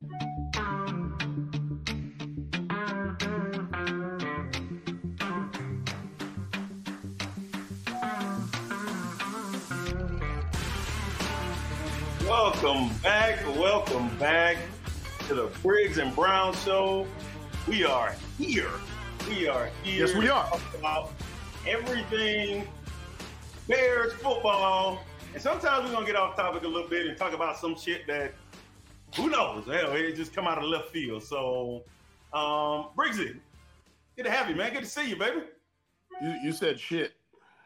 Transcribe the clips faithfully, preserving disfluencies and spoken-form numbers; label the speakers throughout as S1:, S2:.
S1: Welcome back, welcome back to the Briggs and Brown Show. We are here. We are here.
S2: Yes, we are.
S1: To talk about everything Bears football. And sometimes we're going to get off topic a little bit and talk about some shit that, who knows? Hell, it just come out of left field. So, um, Briggsy, good to have you, man. Good to see you, baby.
S2: You you said shit.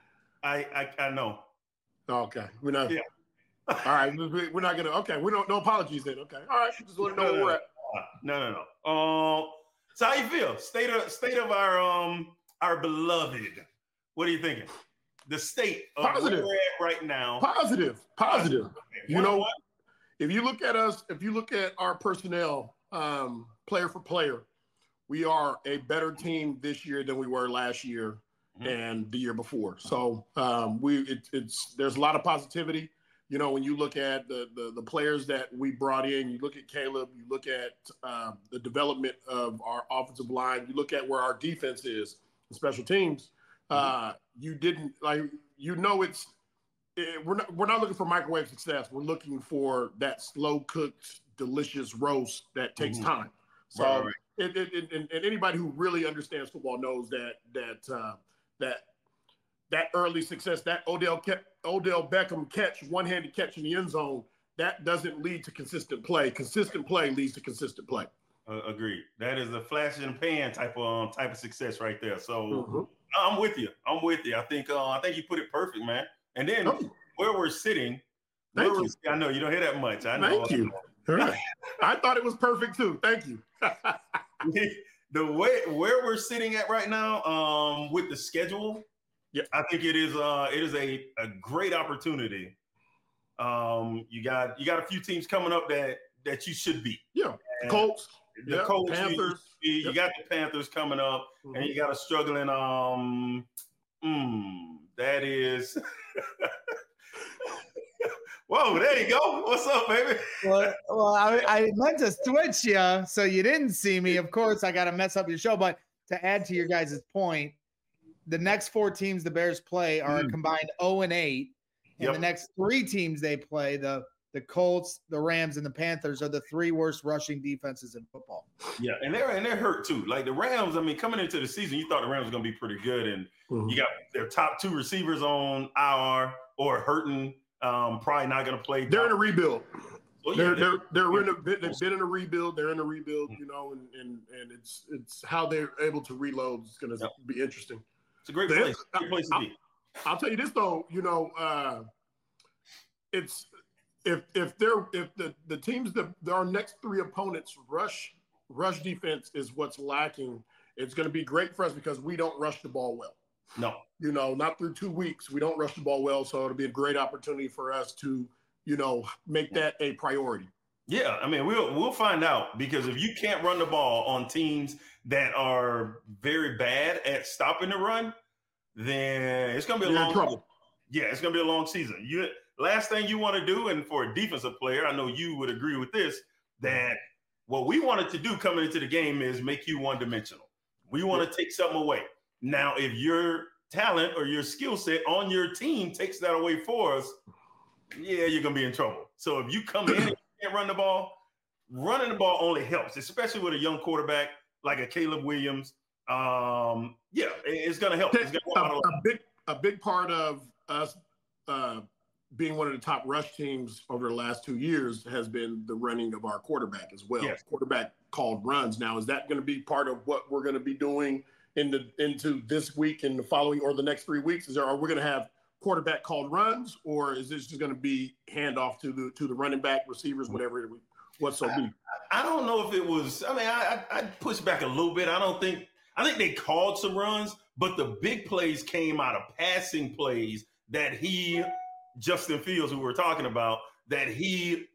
S1: I I, I know.
S2: Okay. We're not.
S1: Yeah.
S2: All right. We're not going to. Okay. We don't. No apologies then. Okay. All right. Just want to know where we're at.
S1: No, no, no. Um, so how you feel? State of state of our um our beloved. What are you thinking? The state of
S2: Positive.
S1: where we're at right now.
S2: Positive. Positive.
S1: Okay.
S2: You
S1: What-
S2: know,
S1: what?
S2: if you look at us, if you look at our personnel, um, player for player, we are a better team this year than we were last year
S1: Mhm.
S2: and the year before. So um, we it, it's there's a lot of positivity. You know, when you look at the, the the players that we brought in, you look at Caleb, you look at um, the development of our offensive line, you look at where our defense is, special teams. Uh, you didn't like, you know, it's it, we're not we're not looking for microwave success. We're looking for that slow cooked, delicious roast that takes
S1: Mhm.
S2: time. So,
S1: Right, right.
S2: It, it, it, and, and anybody who really understands football knows that that uh, that that early success, that Odell kept, Odell Beckham catch, one-handed catch in the end zone, that doesn't lead to consistent play. Consistent play leads to consistent play.
S1: Uh, agreed. That is a flash in the pan type of um, type of success right there. So
S2: Mhm.
S1: I'm with you. I'm with you. I think uh, I think you put it perfect, man. And then
S2: Oh.
S1: where we're sitting,
S2: Thank
S1: where
S2: you.
S1: we're, I know you don't hear that much. I know.
S2: Thank you. All right. I thought it was perfect too. Thank you.
S1: The way where we're sitting at right now, um, with the schedule,
S2: yeah,
S1: I think it is uh it is a, a great opportunity. Um, you got you got a few teams coming up that that you should beat.
S2: Yeah,
S1: And
S2: Colts,
S1: the
S2: yeah,
S1: Colts, you-
S2: Panthers.
S1: You, you
S2: Yep.
S1: got the Panthers coming up,
S2: Mhm.
S1: and you got a struggling. Um, mm, that is. Whoa, there you go. What's up, baby?
S3: Well, well, I, I meant to switch you so you didn't see me. Of course, I got to mess up your show. But to add to your guys' point, the next four teams the Bears play are a
S1: Mm.
S3: combined zero and eight, and
S1: Yep.
S3: the next three teams they play, the the Colts, the Rams, and the Panthers, are the three worst rushing defenses in football.
S1: Yeah, and they're and they're hurt too. Like the Rams, I mean, coming into the season, you thought the Rams were gonna be pretty good, and
S2: Mhm.
S1: you got their top two receivers on I R or hurting. Um, probably not gonna play.
S2: They're in a rebuild.
S1: Well, yeah,
S2: They're
S1: they're-
S2: they're they're in a bit. They've been in a rebuild. They're in a rebuild. You know, and and and it's it's how they're able to reload is going to
S1: Yep.
S2: be interesting.
S1: It's a great
S2: They-
S1: place. Great place to be.
S2: I'll tell you this though, you know, uh, it's if if they're if the the teams that our next three opponents rush rush defense is what's lacking. It's going to be great for us because we don't rush the ball well.
S1: No.
S2: You know, not through two weeks. We don't rush the ball well, so it'll be a great opportunity for us to, you know, make that a priority.
S1: Yeah, I mean, we'll we'll find out because if you can't run the ball on teams that are very bad at stopping the run, then it's gonna be a
S2: You're in
S1: long
S2: trouble.
S1: Yeah, it's gonna be a long season. You last thing you want to do, and for a defensive player, I know you would agree with this, that what we wanted to do coming into the game is make you one dimensional. We want to take something away. Now, if your talent or your skill set on your team takes that away for us, yeah, you're gonna be in trouble. So if you come in and you can't run the ball, running the ball only helps, especially with a young quarterback like a Caleb Williams. Um, yeah, it- it's gonna help. It's gonna help out a
S2: a,
S1: lot.
S2: a big a big part of us uh, being one of the top rush teams over the last two years has been the running of our quarterback as well.
S1: Yes.
S2: Quarterback called runs. Now, is that going to be part of what we're going to be doing in the into this week and the following or the next three weeks? Is there are we going to have quarterback called runs, or is this just going to be handoff to the to the running back, receivers, whatever it what so be?
S1: I don't know if it was. I mean, I I I'd push back a little bit. I don't think. I think they called some runs, but the big plays came out of passing plays that he, Justin Fields, who we're talking about, that he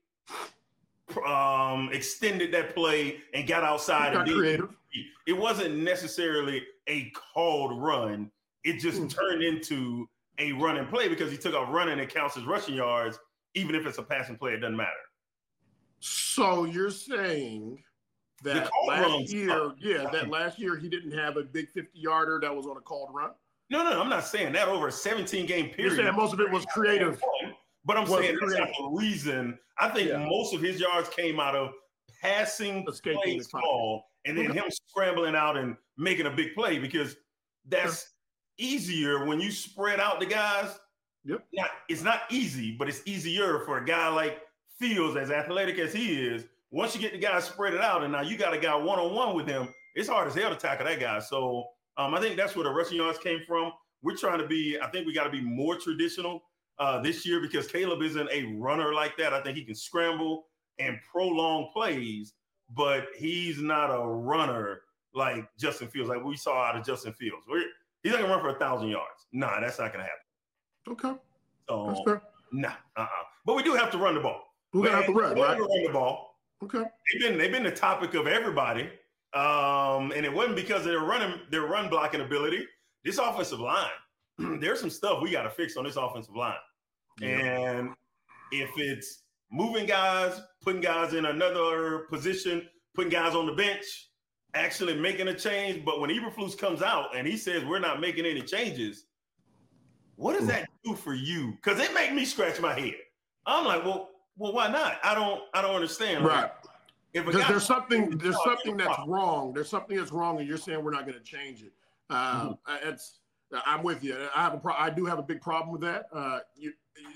S1: um, extended that play and got outside.
S2: Got
S1: and
S2: creative.
S1: did, it wasn't necessarily a called run. It just
S2: Mm.
S1: turned into a running play because he took off running and counts as rushing yards. Even if it's a passing play, it doesn't matter.
S2: So you're saying that last year, yeah, that last year he didn't have a big fifty-yarder that was on a called run?
S1: No, no, I'm not saying that over a seventeen-game period.
S2: You're saying most of it was creative.
S1: But I'm saying that's not the reason. I think
S2: Yeah.
S1: most of his yards came out of passing
S2: Escaping
S1: plays
S2: the
S1: call and then him scrambling out and making a big play, because that's easier when you spread out the guys.
S2: Yep.
S1: Not, it's not easy, but it's easier for a guy like Fields, as athletic as he is. Once you get the guy spread it out and now you got a guy one-on-one with him, it's hard as hell to tackle that guy. So um, I think that's where the rushing yards came from. We're trying to be, I think we got to be more traditional uh, this year, because Caleb isn't a runner like that. I think he can scramble and prolong plays, but he's not a runner like Justin Fields, like we saw out of Justin Fields. We're, he's not going to run for a thousand yards. Nah, that's not going to happen.
S2: Okay.
S1: So,
S2: That's fair.
S1: nah, uh-uh. But we do have to run the ball.
S2: We're going to have to run, right?
S1: To run the ball.
S2: Okay.
S1: They've been, they've been the topic of everybody. Um, and it wasn't because of their running, their run blocking ability. This offensive line, there's some stuff we got to fix on this offensive line. Yeah. And if it's moving guys, putting guys in another position, putting guys on the bench, actually making a change. But when Eberflus comes out and he says we're not making any changes, what does that do for you? Because it make me scratch my head. I'm like, well, well, why not? I don't, I don't understand.
S2: Right.
S1: Like, if
S2: because there's something, there's something that's wrong. There's something that's wrong, and you're saying we're not going to change it. Uh, mm-hmm. It's, I'm with you. I have a pro- I do have a big problem with that. Uh, you,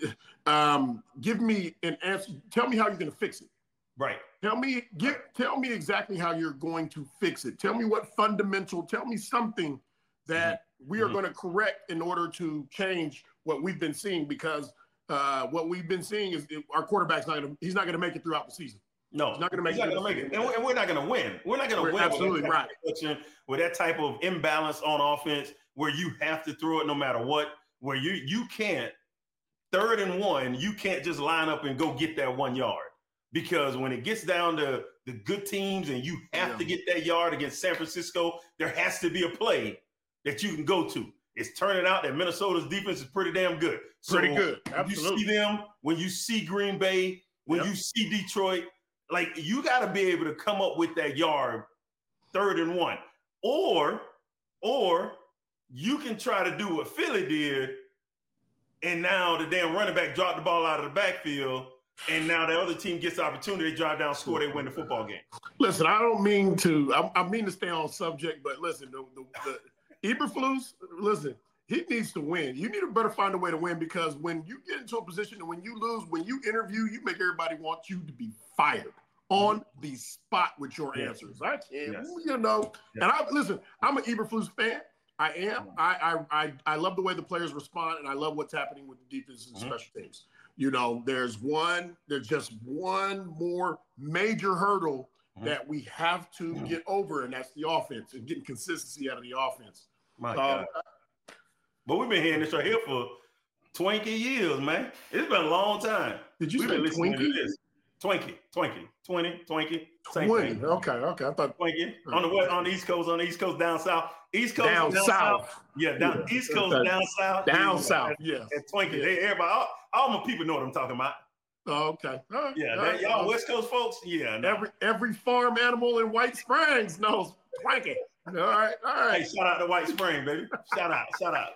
S2: um, give me an answer. Tell me how you're going to fix it.
S1: Right.
S2: Tell me, give, tell me exactly how you're going to fix it. Tell me what fundamental. Tell me something that mm-hmm. we are mm-hmm. going to correct in order to change what we've been seeing. Because uh, what we've been seeing is our quarterback's not going to. He's not going to make it throughout the season.
S1: No,
S2: he's not going to make,
S1: he's not gonna make it, and we're, and we're not going to win. We're not going to win.
S2: Absolutely
S1: with
S2: right.
S1: With that type of imbalance on offense, where you have to throw it no matter what, where you you can't third and one, you can't just line up and go get that one yard, because when it gets down to the good teams and you have yeah. to get that yard against San Francisco, there has to be a play that you can go to. It's turning out that Minnesota's defense is pretty damn good. So
S2: pretty good. Absolutely.
S1: You see them when you see Green Bay, when yep. you see Detroit. Like, you got to be able to come up with that yard third and one. Or, or you can try to do what Philly did, and now the damn running back dropped the ball out of the backfield, and now the other team gets the opportunity to drive down, score, they win the football game.
S2: Listen, I don't mean to – I mean to stay on subject, but listen, the, the, the Eberflus, listen, he needs to win. You need to better find a way to win, because when you get into a position and when you lose, when you interview, you make everybody want you to be fired on the spot with your yes. answers. I can't, yes. you know. Yes. And I listen, I'm an Eberflus fan. I am. I, I I I love the way the players respond, and I love what's happening with the defense and mm-hmm. special teams. You know, there's one, there's just one more major hurdle mm-hmm. that we have to mm-hmm. get over, and that's the offense and getting consistency out of the offense.
S1: My
S2: um,
S1: God. But we've been hearing this right here for twenty years, man. It's been a long time.
S2: Did you
S1: we've
S2: say
S1: been listening
S2: Twinkie?
S1: to this. Twinkie, Twinkie, twenty, Twinkie, same
S2: twenty.
S1: thing.
S2: Okay, okay. I thought
S1: Twinkie on the west, on the East Coast, on the East Coast, down south, East Coast,
S2: down,
S1: down
S2: south.
S1: south. Yeah, down
S2: yeah.
S1: East Coast,
S2: okay.
S1: down south,
S2: down
S1: yeah.
S2: south.
S1: And,
S2: Yes,
S1: and Twinkie.
S2: Yeah.
S1: They, everybody, all, all my people know what I'm talking about.
S2: Oh, okay. All right.
S1: Yeah,
S2: all
S1: that,
S2: right.
S1: y'all West Coast folks. Yeah, no.
S2: every every farm animal in White Springs knows Twinkie. All right, all right.
S1: Hey, shout out to White Spring, baby. Shout out, shout out.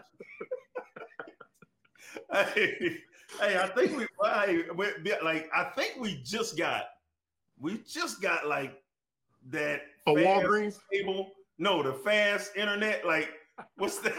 S1: hey, hey, I think we, hey, we, like, I think we just got, we just got like that.
S2: A Walgreens
S1: cable. No, the fast internet. Like, what's that?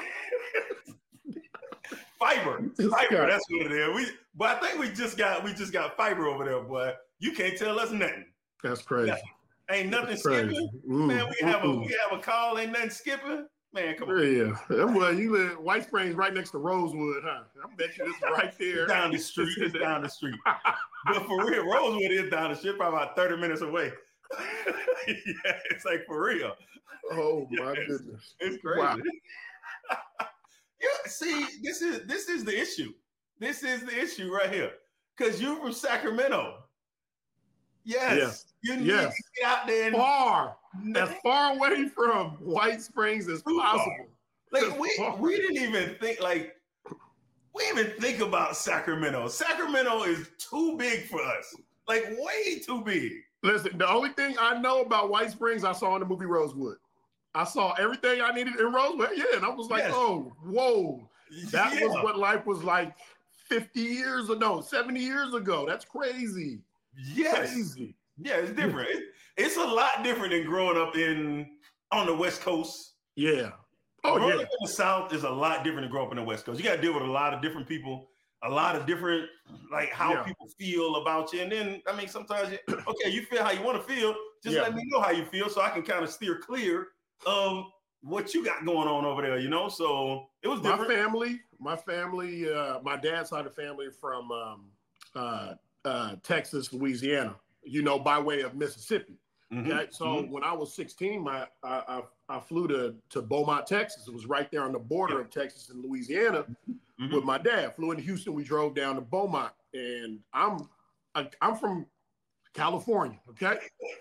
S1: Fiber, fiber. That's what it is. We, but I think we just got, we just got fiber over there, boy. You can't tell us nothing.
S2: That's crazy.
S1: Nothing. Ain't nothing
S2: That's
S1: skipping.
S2: Mm,
S1: Man, we have
S2: mm-mm.
S1: a, we have a call. Ain't nothing skipping. Man, come on.
S2: Yeah, well, you live White Springs right next to Rosewood, huh? I bet you this is right there.
S1: It's down the street. It's down the street. But for real, Rosewood is down the street, probably about thirty minutes away. Yeah, it's like for real.
S2: Oh my
S1: yes.
S2: goodness,
S1: it's crazy. Wow. Yeah, see, this is this is the issue. This is the issue right here. Because you're from Sacramento. Yes. Yeah. You need
S2: yes.
S1: to get out there and
S2: far. As far away from White Springs as possible.
S1: Like we we didn't even think like we didn't even think about Sacramento. Sacramento is too big for us. Like way too big.
S2: Listen, the only thing I know about White Springs, I saw in the movie Rosewood. I saw everything I needed in Rosewood. Yeah, and I was like, yes. oh, whoa. That yeah. was what life was like fifty years ago, no, seventy years ago. That's crazy.
S1: Yes.
S2: Crazy.
S1: Yeah, it's different. It, it's a lot different than growing up in on the West Coast.
S2: Yeah. Oh,
S1: growing
S2: yeah.
S1: up in the South is a lot different than growing up in the West Coast. You got to deal with a lot of different people, a lot of different, like how yeah. people feel about you. And then, I mean, sometimes, you, okay, you feel how you want to feel. Just yeah. let me know how you feel so I can kind of steer clear of what you got going on over there, you know? So it was different.
S2: My family, my family, uh, my dad's side of the family from um, uh, uh, Texas, Louisiana, you know, by way of Mississippi. Mm-hmm. Okay, so mm-hmm. when I was sixteen, my I, I, I flew to, to Beaumont, Texas. It was right there on the border yeah. of Texas and Louisiana mm-hmm. with my dad. Flew into Houston. We drove down to Beaumont, and I'm I, I'm from California. Okay,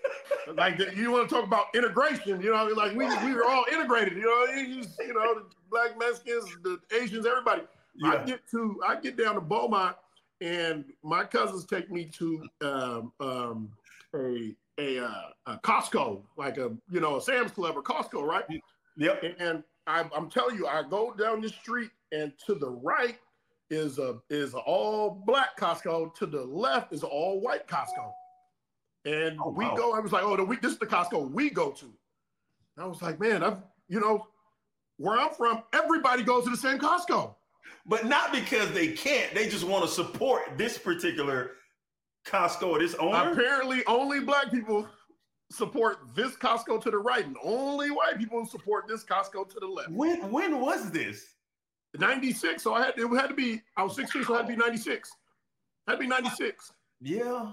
S2: like you want to talk about integration? You know, like we we were all integrated. You know, you, you know, the Black Mexicans, the Asians, everybody. Yeah. I get to I get down to Beaumont, and my cousins take me to um, um, a A, uh, a Costco, like a, you know, a Sam's Club or Costco, right?
S1: Yep.
S2: And I, I'm telling you, I go down the street, and to the right is a is a all black Costco. To the left is an all white Costco. And oh, we wow. go. I was like, oh, the, we, this is the Costco we go to. And I was like, man, I've, you know, where I'm from, everybody goes to the same Costco.
S1: But not because they can't. They just want to support this particular Costco or this owner?
S2: Apparently, only black people support this Costco to the right, and only white people support this Costco to the left.
S1: When when was this?
S2: ninety-six. So I had it had to be. I was sixteen, so it had to be ninety-six. Had to be ninety-six.
S1: Yeah.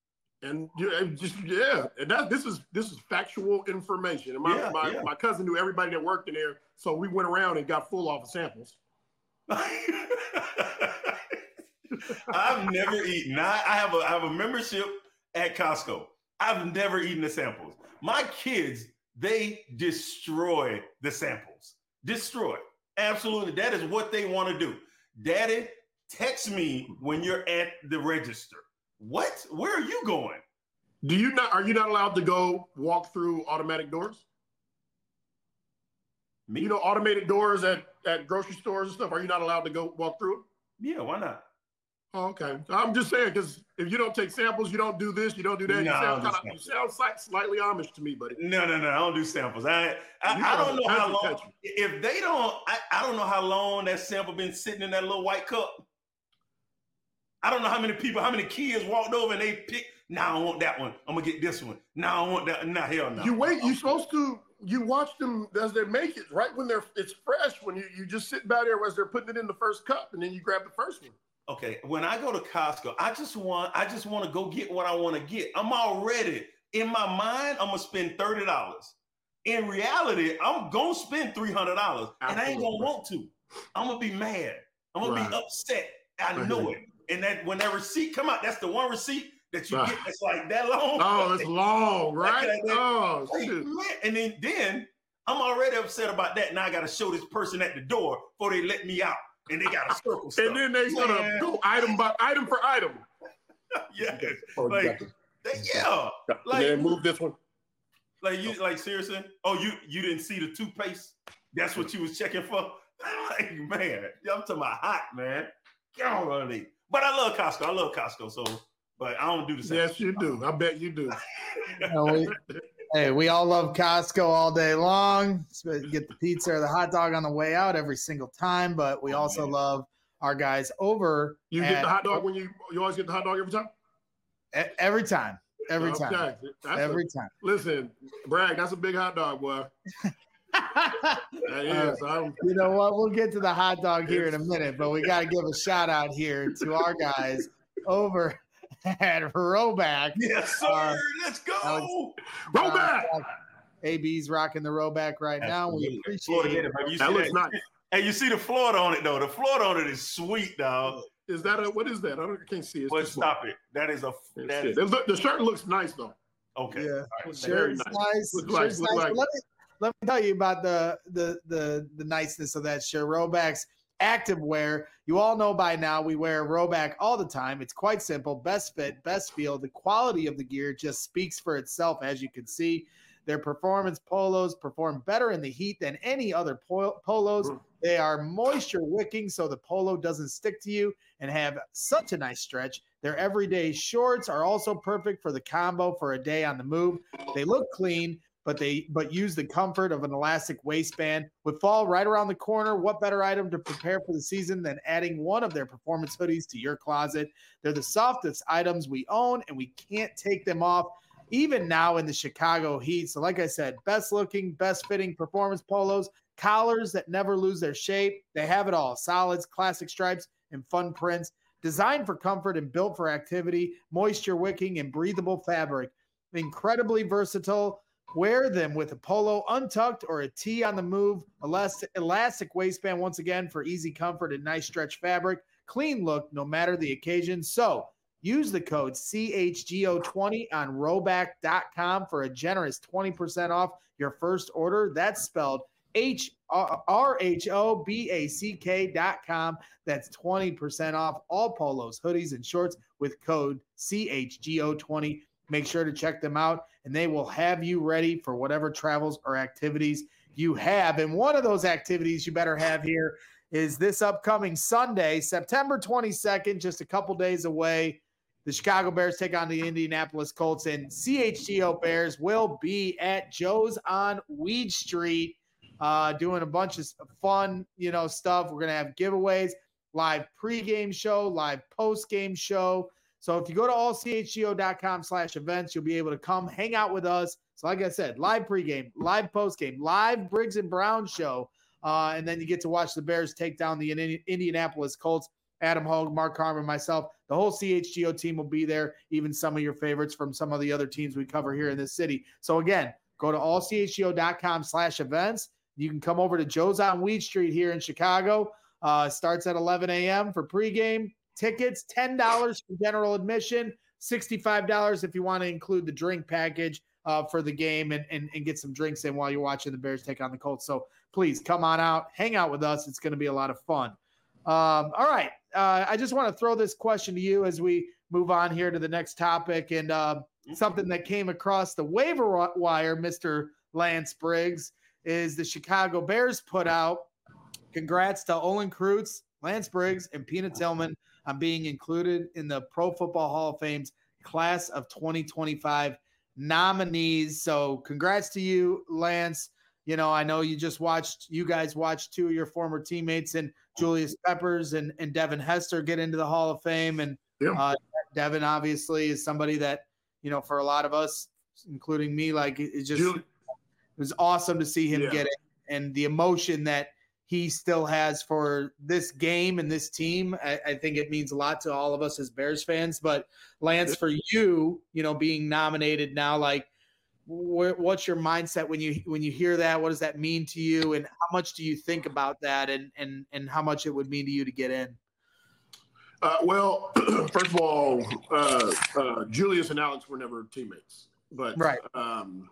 S2: And yeah, just yeah, and that this is this is factual information. And my
S1: yeah,
S2: my,
S1: yeah.
S2: my cousin knew everybody that worked in there, so we went around and got full off of samples.
S1: I've never eaten. I, I have a I have a membership at Costco. I've never eaten the samples. My kids, they destroy the samples. Destroy. Absolutely. That is what they want to do. Daddy, text me when you're at the register. What? Where are you going?
S2: Do you not are you not allowed to go walk through automatic doors? Me? You know, automated doors at, at grocery stores and stuff. Are you not allowed to go walk through it?
S1: Yeah, why not?
S2: Oh, okay. I'm just saying, because if you don't take samples, you don't do this, you don't do that. No, you sound, kinda, you sound like slightly Amish to me, buddy.
S1: No, no, no. I don't do samples. I I, I don't know how long. Country. If they don't, I, I don't know how long that sample been sitting in that little white cup. I don't know how many people, how many kids walked over and they picked, nah, I want that one. I'm going to get this one. Nah, I want that. Nah, hell no.
S2: You wait. You're supposed to, you watch them as they make it, right when they're, it's fresh, when you, you just sit back there as they're putting it in the first cup, and then you grab the first one.
S1: Okay, when I go to Costco, I just want I just want to go get what I want to get. I'm already in my mind. I'm gonna spend thirty dollars. In reality, I'm gonna spend three hundred dollars, and I ain't gonna want to. I'm gonna be mad. I'm gonna right. be upset. I right. know it. And that when that receipt come out, that's the one receipt that you right. get that's like that long.
S2: Oh, it's long, right? Like that. Oh,
S1: like,
S2: shit.
S1: Man. And then then I'm already upset about that. Now I got to show this person at the door before they let me out. And they got a circle stuff.
S2: And then they sort of go item by item for item.
S1: Yeah. Like, they, yeah.
S2: Like, and move this one.
S1: Like you like seriously? Oh, you you didn't see the toothpaste? That's what you was checking for? Like, man, I'm talking about hot, man. Golly. But I love Costco. I love Costco. So, but I don't do the same.
S2: Yes, you do. I bet you do.
S3: No, we, hey, we all love Costco all day long. Get the pizza or the hot dog on the way out every single time. But we oh, also man. love our guys over.
S2: You at, get the hot dog when you you always get the hot dog every time?
S3: Every time. Every
S2: okay.
S3: time.
S2: That's
S3: every
S2: a,
S3: time.
S2: Listen, Bragg, that's a big hot dog, boy. That is,
S3: uh, you know what? We'll get to the hot dog here in a minute, but we got to give a shout out here to our guys over at Roback.
S1: Yes, sir. Uh, Let's go. Alex,
S2: Roback.
S3: Uh, A B's rocking the Roback right now.
S1: Absolutely.
S3: We appreciate it.
S1: You
S2: that looks nice.
S1: Hey, you see the Florida on it, though. The Florida on it is sweet, dog.
S2: Is that a, what is that? I, don't, I can't see it.
S1: Well, stop it. That is a. That is,
S2: the shirt looks nice, though.
S1: Okay.
S3: Yeah.
S1: Right.
S3: Shirt's nice. nice.
S2: Looks
S3: Shirt's
S2: like,
S3: nice.
S2: like.
S3: Let me, let me tell you about the, the, the, the niceness of that shirt. Roback's activewear. You all know by now we wear Rhoback all the time. It's quite simple. Best fit, best feel. The quality of the gear just speaks for itself, as you can see. Their performance polos perform better in the heat than any other pol- polos. They are moisture wicking, so the polo doesn't stick to you and have such a nice stretch. Their everyday shorts are also perfect for the combo for a day on the move. They look clean, but they but use the comfort of an elastic waistband. With fall right around the corner, what better item to prepare for the season than adding one of their performance hoodies to your closet? They're the softest items we own, and we can't take them off, even now in the Chicago heat. So like I said, best looking, best fitting performance polos, collars that never lose their shape. They have it all. Solids, classic stripes, and fun prints. Designed for comfort and built for activity, moisture wicking and breathable fabric. Incredibly versatile. Wear them with a polo untucked or a tee on the move. Elastic, elastic waistband once again for easy comfort and nice stretch fabric. Clean look no matter the occasion. So use the code C H G O twenty on Rhoback dot com for a generous twenty percent off your first order. That's spelled H R H O B A C K dot com. That's twenty percent off all polos, hoodies, and shorts with code C H G O twenty. Make sure to check them out, and they will have you ready for whatever travels or activities you have. And one of those activities you better have here is this upcoming Sunday, September twenty-second, just a couple days away. The Chicago Bears take on the Indianapolis Colts, and C H G O Bears will be at Joe's on Weed Street uh, doing a bunch of fun, you know, stuff. We're going to have giveaways, live pregame show, live postgame show. So if you go to all c h g o dot com slash events, you'll be able to come hang out with us. So like I said, live pregame, live postgame, live Briggs and Brown show. Uh, and then you get to watch the Bears take down the Indianapolis Colts. Adam Hogue, Mark Carmen, myself, the whole C H G O team will be there, even some of your favorites from some of the other teams we cover here in this city. So again, go to all c h g o dot com slash events. You can come over to Joe's on Weed Street here in Chicago. Uh, starts at eleven a.m. for pregame. Tickets, ten dollars for general admission, sixty-five dollars if you want to include the drink package uh, for the game and, and, and get some drinks in while you're watching the Bears take on the Colts. So please come on out, hang out with us. It's going to be a lot of fun. Um, all right. Uh, I just want to throw this question to you as we move on here to the next topic, and uh, something that came across the waiver wire, Mister Lance Briggs, is the Chicago Bears put out. Congrats to Olin Kreutz, Lance Briggs, and Peanut Tillman on being included in the Pro Football Hall of Fame's class of twenty twenty-five nominees. So congrats to you, Lance. You know, I know you just watched, you guys watched two of your former teammates and Julius Peppers and, and Devin Hester get into the Hall of Fame. And yeah. uh, Devin obviously is somebody that, you know, for a lot of us, including me, like it just, Julie. It was awesome to see him yeah. get it, and the emotion that he still has for this game and this team. I, I think it means a lot to all of us as Bears fans. But Lance, for you, you know, being nominated now, like, wh- what's your mindset when you when you hear that? What does that mean to you, and how much do you think about that, and and and how much it would mean to you to get in?
S2: Uh, well, first of all, uh, uh, Julius and Alex were never teammates, but
S3: right.
S2: Um,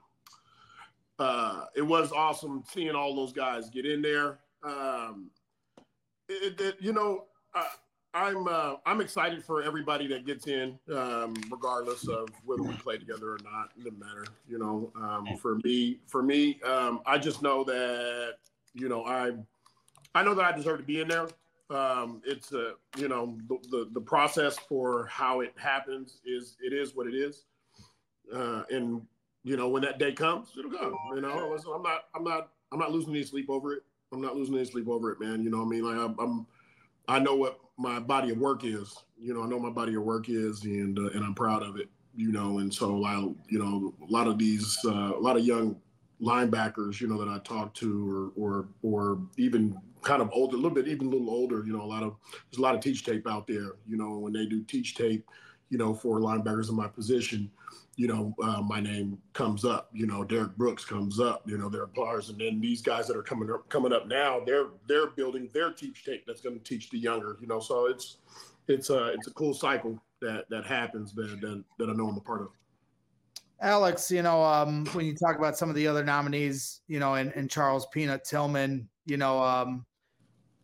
S2: uh, it was awesome seeing all those guys get in there. Um, it, it, you know, uh, I'm uh, I'm excited for everybody that gets in, um, regardless of whether we play together or not. It doesn't matter, you know. Um, for me, for me, um, I just know that you know I I know that I deserve to be in there. Um, it's a you know the, the the process for how it happens is it is what it is, uh, and you know when that day comes, it'll come. You know, so I'm not I'm not I'm not losing any sleep over it. I'm not losing any sleep over it, man. You know what I mean? Like I'm, I'm, I know what my body of work is. You know, I know my body of work is, and uh, and I'm proud of it. You know, and so I, you know, a lot of these, uh, a lot of young linebackers, you know, that I talk to, or or or even kind of older, a little bit, even a little older. You know, a lot of there's a lot of teach tape out there. You know, when they do teach tape, you know, for linebackers in my position, you know, uh, my name comes up, you know, Derek Brooks comes up, you know, there are players. And then these guys that are coming up, coming up now, they're, they're building their teach tape that's going to teach the younger, you know, so it's, it's a, it's a cool cycle that, that happens that, that, that I know I'm a part of.
S3: Alex, you know, um, when you talk about some of the other nominees, you know, and, and Charles Peanut Tillman, you know, um,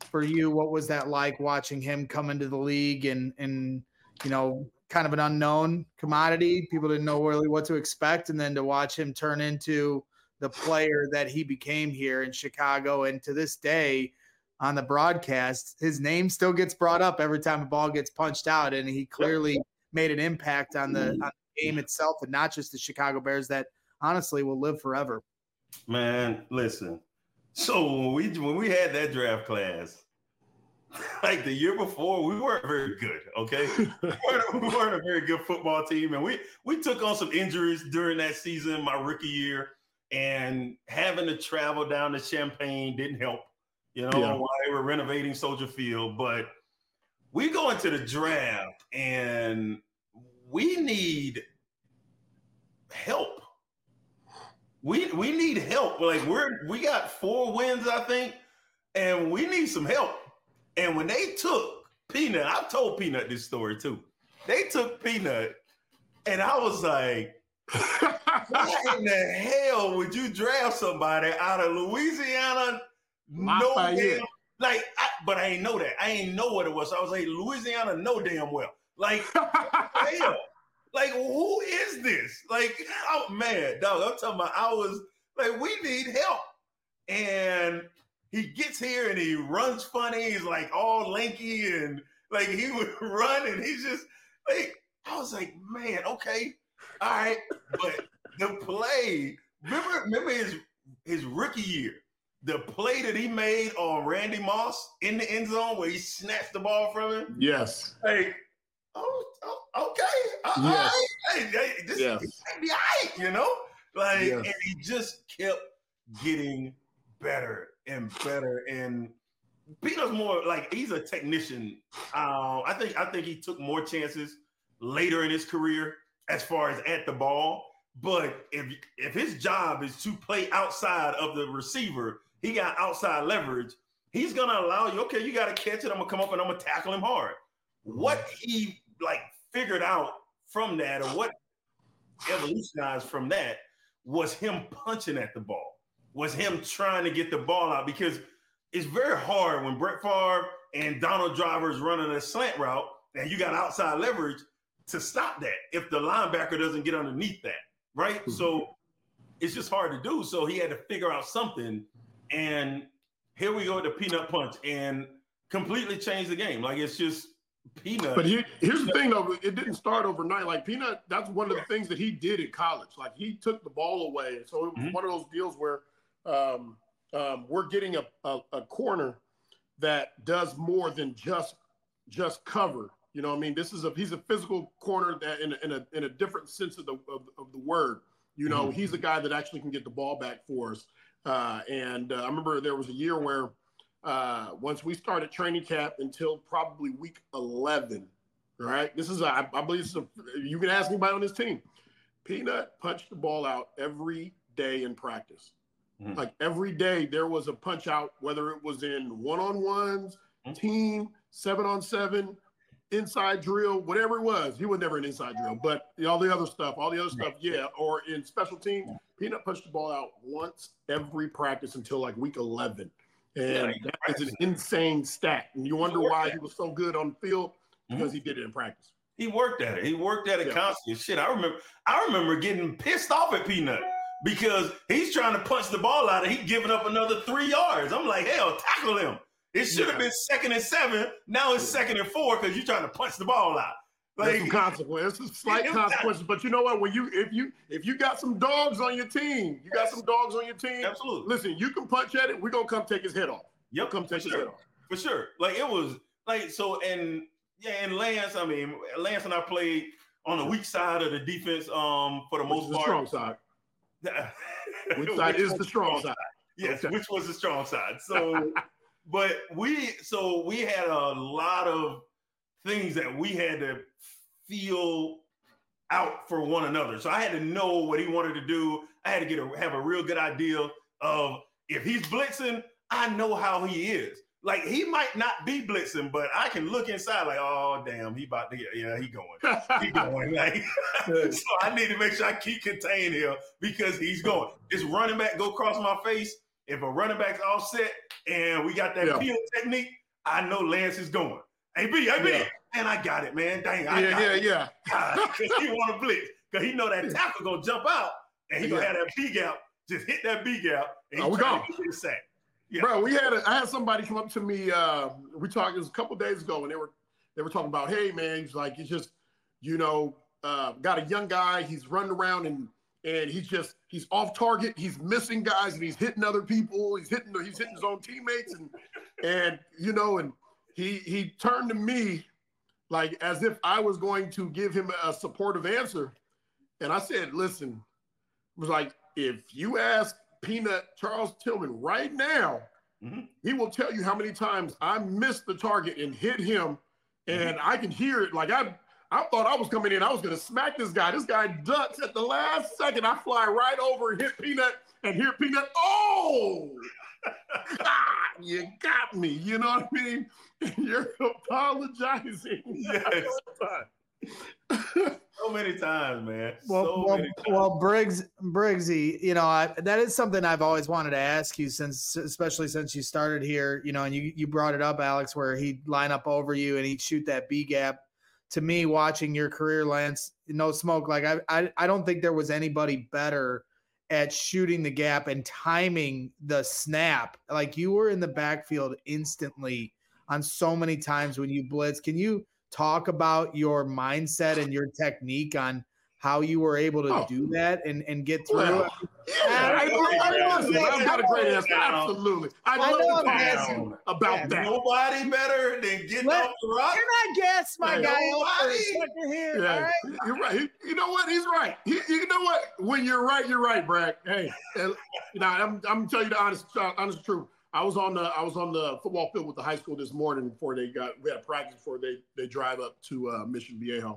S3: for you? What was that like watching him come into the league and, and you know, kind of an unknown commodity? People didn't know really what to expect. And then to watch him turn into the player that he became here in Chicago. And to this day on the broadcast, his name still gets brought up every time a ball gets punched out. And he clearly made an impact on the, on the game itself and not just the Chicago Bears that honestly will live forever.
S1: Man, listen. So when we when we had that draft class, like the year before, we weren't very good. Okay, we, weren't, we weren't a very good football team, and we we took on some injuries during that season, my rookie year, and having to travel down to Champaign didn't help. You know, yeah. while they were renovating Soldier Field, but we go into the draft and we need help. We we need help. Like we're we got four wins, I think, and we need some help. And when they took Peanut, I've told Peanut this story too. They took Peanut, and I was like, why in the hell would you draft somebody out of Louisiana? No damn, like, I, but I ain't know that. I ain't know what it was. So I was like, Louisiana, no damn well. Like, hell. Like, who is this? Like, oh man, dog, I'm talking about I was like, we need help. And he gets here and he runs funny. He's like all lanky and like he would run and he's just like, I was like, man, okay, all right. But the play, remember, remember his his rookie year, the play that he made on Randy Moss in the end zone where he snatched the ball from him?
S2: Yes.
S1: Like, oh, oh okay. Uh,
S2: yes.
S1: All right. Hey, this
S2: yes.
S1: might be all right, you know? Like,
S2: yes.
S1: and he just kept getting better and better. And Peanut's more like he's a technician. Uh, I think I think he took more chances later in his career as far as at the ball. But if if his job is to play outside of the receiver, he got outside leverage. He's gonna allow you. Okay, you got to catch it. I'm gonna come up and I'm gonna tackle him hard. What he like figured out from that, or what evolutionized from that, was him punching at the ball. Was him trying to get the ball out, because it's very hard when Brett Favre and Donald Driver is running a slant route and you got outside leverage to stop that if the linebacker doesn't get underneath that, right? Mm-hmm. So it's just hard to do. So he had to figure out something, and here we go with the Peanut punch and completely change the game. Like, it's just Peanut.
S2: But here, here's the thing, though. It didn't start overnight. Like, Peanut, that's one of the things that he did in college. Like, he took the ball away. So it was mm-hmm. one of those deals where um, um, we're getting a, a, a corner that does more than just just cover. You know what I mean? This is a he's a physical corner that in a, in a in a different sense of the of, of the word. You know, mm-hmm. he's a guy that actually can get the ball back for us. Uh, and uh, I remember there was a year where uh, once we started training camp until probably week eleven, right? This is a, I, I believe this is a, you can ask anybody on this team. Peanut punched the ball out every day in practice. Mm-hmm. Like every day there was a punch out, whether it was in one-on-ones, mm-hmm. team, seven on seven, inside drill, whatever it was. He was never an inside drill, but all the other stuff, all the other stuff, yeah. Or in special teams, Peanut punched the ball out once every practice until like week eleven. And yeah, that is an insane stat. And you wonder why he was so good on the field, because mm-hmm. he did it in practice.
S1: He worked at it. He worked at it yeah. constantly. Shit, I remember I remember getting pissed off at Peanut because he's trying to punch the ball out and he's giving up another three yards. I'm like, hell, tackle him. It should have yeah. been second and seven. Now it's second and four because you're trying to punch the ball out.
S2: Like, there's some consequences, some slight consequences. But you know what? When you if you if you got some dogs on your team, you got some dogs on your team.
S1: Absolutely.
S2: Listen, you can punch at it. We're gonna come take his head off.
S1: Yep,
S2: come take his
S1: sure.
S2: head off.
S1: For sure. Like it was like so and yeah, and Lance, I mean, Lance and I played on the weak side of the defense um for the
S2: which
S1: most
S2: is the
S1: part.
S2: Strong side. Which side is the strong side?
S1: Yes,
S2: okay.
S1: which was the strong side. So but we so we had a lot of things that we had to feel out for one another. So I had to know what he wanted to do. I had to get a have a real good idea of if he's blitzing, I know how he is. Like he might not be blitzing, but I can look inside like, oh damn, he about to get yeah, he going. He going. Like so I need to make sure I keep contained here because he's going. This running back go across my face. if a running back's offset and we got that
S2: Yeah.
S1: peel technique, I know Lance is going. Hey, B, hey, B.
S2: Yeah.
S1: Man, I got it, man. Dang, I
S2: Yeah,
S1: got
S2: yeah,
S1: it.
S2: yeah.
S1: Because he want to blitz. Because he know that tackle going to jump out and he going to
S2: Yeah.
S1: have that B gap. Just hit that B gap and he
S2: Oh, we
S1: trying
S2: gone.
S1: to get the sack. Yeah.
S2: Bro, we had a, I had somebody come up to me. Uh, we talked. It was a couple days ago, and they were they were talking about, hey man, he's like, he's just, you know, uh, got a young guy. He's running around and and he's just he's off target. He's missing guys and he's hitting other people. He's hitting he's hitting his own teammates and and you know and he he turned to me like as if I was going to give him a supportive answer, and I said, listen, it was like if you ask Peanut Charles Tillman right now, mm-hmm. he will tell you how many times I missed the target and hit him, and mm-hmm. I can hear it. Like I, I thought I was coming in, I was going to smack this guy. This guy ducks at the last second. I fly right over and hit Peanut, and hear Peanut. Oh, God, you got me. You know what I mean? You're apologizing.
S1: Yes. So many times, man.
S3: Well,
S1: so
S3: well,
S1: many times.
S3: well, Briggs, Briggsy, you know, I, that is something I've always wanted to ask you since, especially since you started here, you know, and you, you brought it up, Alex, where he'd line up over you and he'd shoot that B gap. To me, watching your career, Lance, no smoke. Like I, I, I don't think there was anybody better at shooting the gap and timing the snap. Like you were in the backfield instantly on so many times when you blitz. Can you talk about your mindset and your technique on how you were able to
S2: oh.
S3: do that and, and get through
S2: well,
S3: it?
S2: Yeah, I, I, I, I've got a great answer. Absolutely. I'd
S3: I
S2: love
S3: know
S2: to
S3: I'm
S2: talk
S3: guessing.
S2: about
S3: Yeah,
S2: that.
S1: Nobody better than getting
S3: Let-
S1: off the rock.
S3: Can I guess, my
S2: Hey,
S3: guy?
S1: nobody-
S3: Over here,
S2: Yeah,
S3: all right?
S2: you're right. He- you know what? He's right. He, you know what? When you're right, you're right, Brad. Hey, and, you know, I'm I'm telling you the honest, uh, honest truth. I was on the I was on the football field with the high school this morning before they got we had practice before they they drive up to uh, Mission Viejo,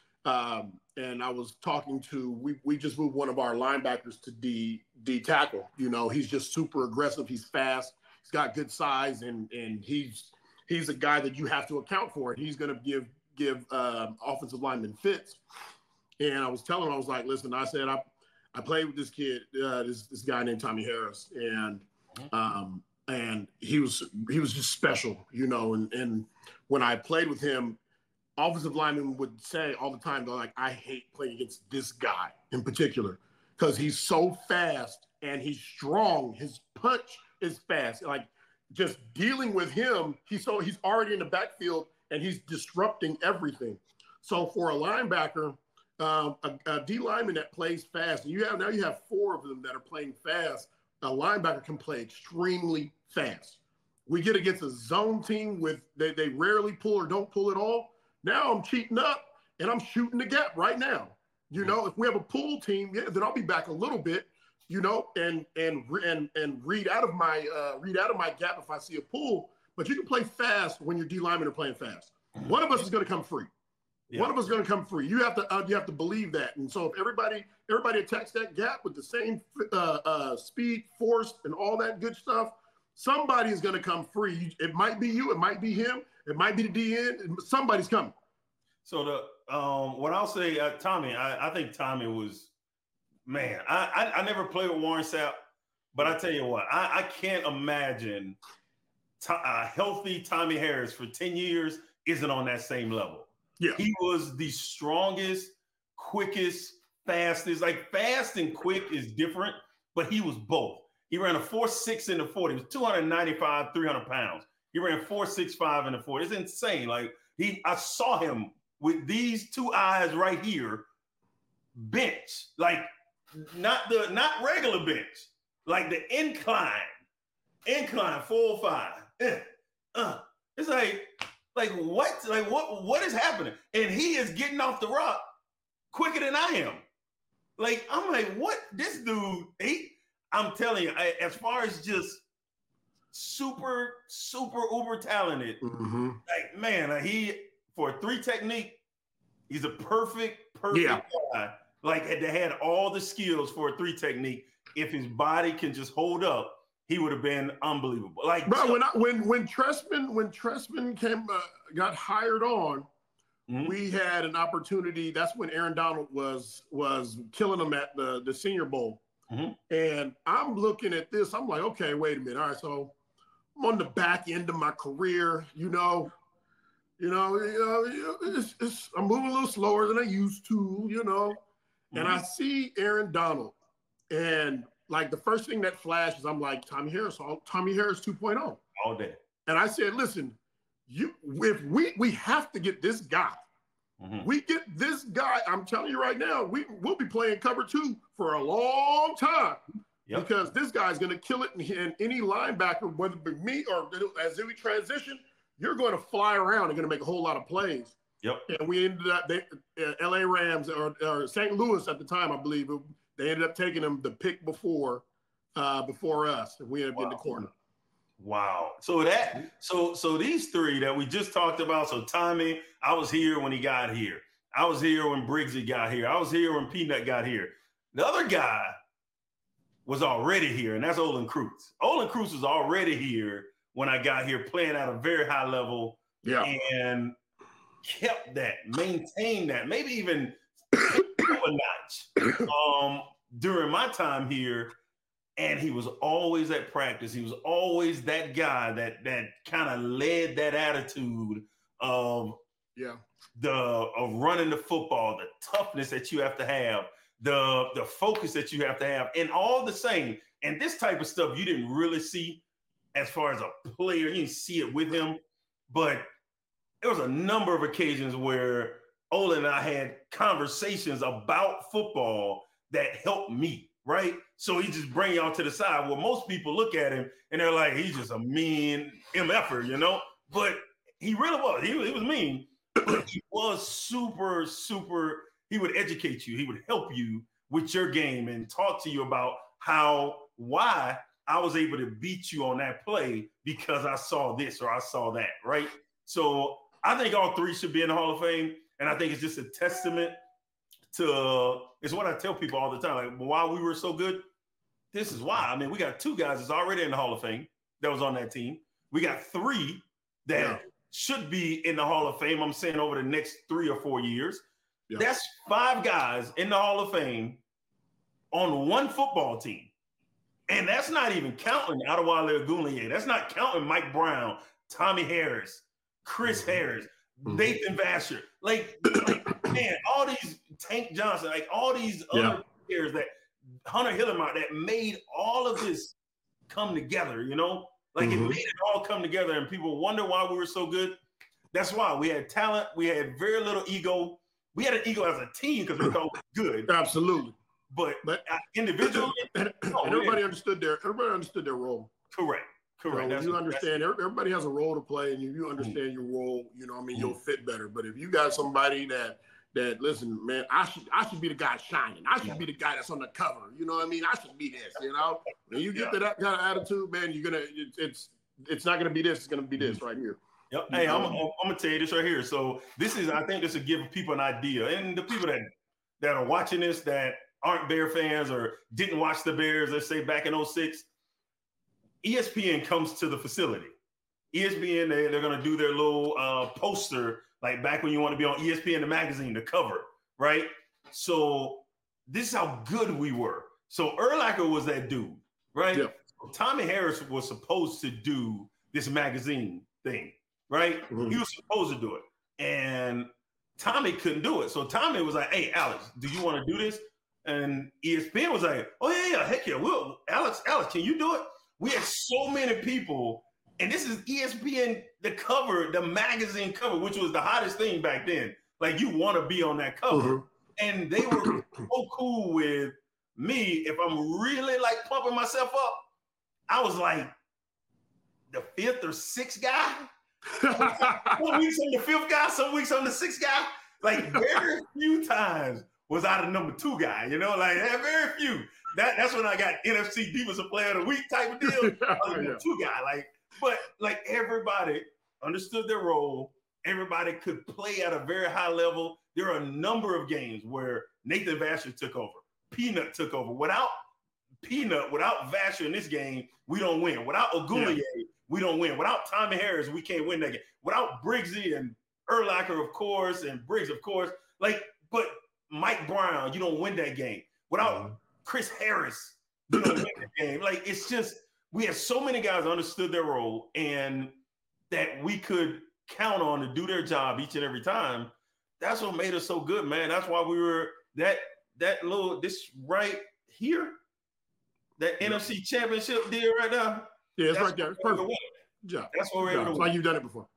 S2: um, and I was talking to we we just moved one of our linebackers to D D tackle. You know, he's just super aggressive. He's fast. He's got good size, and and he's he's a guy that you have to account for. He's going to give give um, offensive linemen fits. And I was telling him, I was like, listen, I said I I played with this kid, uh, this this guy named Tommy Harris, and um, and he was he was just special, you know. And and when I played with him, offensive linemen would say all the time, they're like, I hate playing against this guy in particular because he's so fast and he's strong. His punch is fast. Like just dealing with him, he's so he's already in the backfield and he's disrupting everything. So for a linebacker, um, a, a D lineman that plays fast, and you have now you have four of them that are playing fast. A linebacker can play extremely fast. We get against a zone team with they, they rarely pull or don't pull at all. Now I'm cheating up and I'm shooting the gap right now. You know, if we have a pull team, yeah, then I'll be back a little bit, you know, and and and and read out of my uh, read out of my gap if I see a pull. But you can play fast when your D linemen are playing fast. One of us is going to come free. Yeah. One of us is going to come free. You have to uh, you have to believe that. And so if everybody everybody attacks that gap with the same uh, uh, speed, force, and all that good stuff, somebody is going to come free. It might be you. It might be him. It might be the D N. Somebody's coming.
S1: So the um, what I'll say, uh, Tommy, I, I think Tommy was, man. I, I I never played with Warren Sapp, but I tell you what, I, I can't imagine to, a healthy Tommy Harris for ten years isn't on that same level.
S2: Yeah,
S1: he was the strongest, quickest, fastest. Like fast and quick is different, but he was both. He ran a four six in the forty. He was two ninety-five, three hundred pounds. He ran four six five in the forty. It's insane. Like he, I saw him with these two eyes right here, bench, like not the not regular bench, like the incline, incline four oh five. Eh, uh, it's like, like what? Like what? What is happening? And he is getting off the rock quicker than I am. Like I'm like, what? This dude, he. I'm telling you, I, as far as just super, super uber talented, mm-hmm. like man, uh, he for three technique, he's a perfect, perfect
S2: yeah.
S1: guy. Like they had all the skills for a three technique. If his body can just hold up, he would have been unbelievable. Like,
S2: bro, when I, when when Trestman when Trestman came uh, got hired on, mm-hmm. we had an opportunity. That's when Aaron Donald was was killing him at the the Senior Bowl. Mm-hmm. And I'm looking at this. I'm like, okay, wait a minute. All right, so I'm on the back end of my career, you know. You know, you know it's, it's, I'm moving a little slower than I used to, you know. Mm-hmm. And I see Aaron Donald. And, like, the first thing that flashes, I'm like, Tommy Harris, Tommy Harris two point oh.
S1: All day.
S2: And I said, listen, you if we we have to get this guy. Mm-hmm. We get this guy, I'm telling you right now, we, we'll be playing cover two for a long time. Yep. Because this guy's going to kill it in, in any linebacker, whether it be me or as we transition, you're going to fly around and going to make a whole lot of plays.
S1: Yep.
S2: And we ended up, they, uh, L A Rams or, or Saint Louis at the time, I believe, they ended up taking him the pick before uh, before us. And we ended up wow. getting the corner.
S1: Wow. So that so so these three that we just talked about. So Tommy, I was here when he got here. I was here when Briggsy got here. I was here when Peanut got here. The other guy was already here, and that's Olin Kreutz. Olin Kreutz was already here when I got here, playing at a very high level.
S2: Yeah.
S1: And kept that, maintained that, maybe even a notch um, during my time here. And he was always at practice. He was always that guy that that kind of led that attitude of
S2: yeah
S1: the of running the football, the toughness that you have to have, the the focus that you have to have, and all the same. And this type of stuff you didn't really see as far as a player. You didn't see it with him, but there was a number of occasions where Olin and I had conversations about football that helped me. Right? So he just bring y'all to the side. Well, most people look at him and they're like, he's just a mean M F-er, you know? But he really was. He, he was mean, but he was super, super, he would educate you. He would help you with your game and talk to you about how, why I was able to beat you on that play because I saw this or I saw that, right? So I think all three should be in the Hall of Fame. And I think it's just a testament to uh, it's what I tell people all the time. Like, why we were so good, this is why. I mean, we got two guys that's already in the Hall of Fame that was on that team. We got three that yeah. should be in the Hall of Fame, I'm saying, over the next three or four years. Yeah. That's five guys in the Hall of Fame on one football team. And that's not even counting Adewale Ogunleye. That's not counting Mike Brown, Tommy Harris, Chris mm-hmm. Harris, mm-hmm. Nathan Vasher. Like, like, man, all these Tank Johnson, like all these other yeah. players that Hunter Hillenmeyer that made all of this come together, you know? Like mm-hmm. it made it all come together and people wonder why we were so good. That's why we had talent. We had very little ego. We had an ego as a team because we thought we were good.
S2: Absolutely.
S1: But, but individually,
S2: and, no, and everybody understood their everybody understood their role.
S1: Correct. Correct.
S2: You, know, you understand everybody has a role to play, and if you understand mm-hmm. your role, you know, I mean, mm-hmm. you'll fit better. But if you got somebody that that listen, man, I should I should be the guy shining. I should yeah. be the guy that's on the cover. You know what I mean? I should be this. You know, when you get yeah. to that kind of attitude, man, you're gonna it, it's it's not gonna be this. It's gonna be this right here.
S1: Yep. Hey, I'm, I'm, I'm gonna tell you this right here. So this is, I think, this will give people an idea, and the people that that are watching this that aren't Bear fans or didn't watch the Bears, let's say back in oh six, E S P N comes to the facility. E S P N, they, they're going to do their little uh, poster, like back when you want to be on E S P N, the magazine, the cover, right? So this is how good we were. So Urlacher was that dude, right? Yeah. So Tommy Harris was supposed to do this magazine thing, right? Mm-hmm. He was supposed to do it. And Tommy couldn't do it. So Tommy was like, hey, Alex, do you want to do this? And E S P N was like, oh, yeah, yeah, heck yeah, we'll, Alex, Alex, can you do it? We had so many people, and this is E S P N, the cover, the magazine cover, which was the hottest thing back then. Like, you want to be on that cover. Mm-hmm. And they were so cool with me. If I'm really, like, pumping myself up, I was like the fifth or sixth guy. Some weeks I'm the fifth guy, some weeks I'm the sixth guy. Like, very few times was I the number two guy, you know? Like, very few. That, that's when I got N F C Defensive Player of the Week type of deal. I was the yeah. two guy. Like, but, like, everybody understood their role. Everybody could play at a very high level. There are a number of games where Nathan Vasher took over. Peanut took over. Without Peanut, without Vasher in this game, we don't win. Without Ogunleye, yeah. we don't win. Without Tommy Harris, we can't win that game. Without Briggsy and Urlacher, of course, and Briggs, of course. Like, but Mike Brown, you don't win that game. Without mm-hmm. Chris Harris, you don't win the game. Like, it's just, we had so many guys understood their role and that we could count on to do their job each and every time. That's what made us so good, man. That's why we were that that little this right here, that yeah. N F C Championship deal right now.
S2: Yeah, it's right there. It's perfect.
S1: Yeah, that's what we're able to.
S2: That's why you've done it before.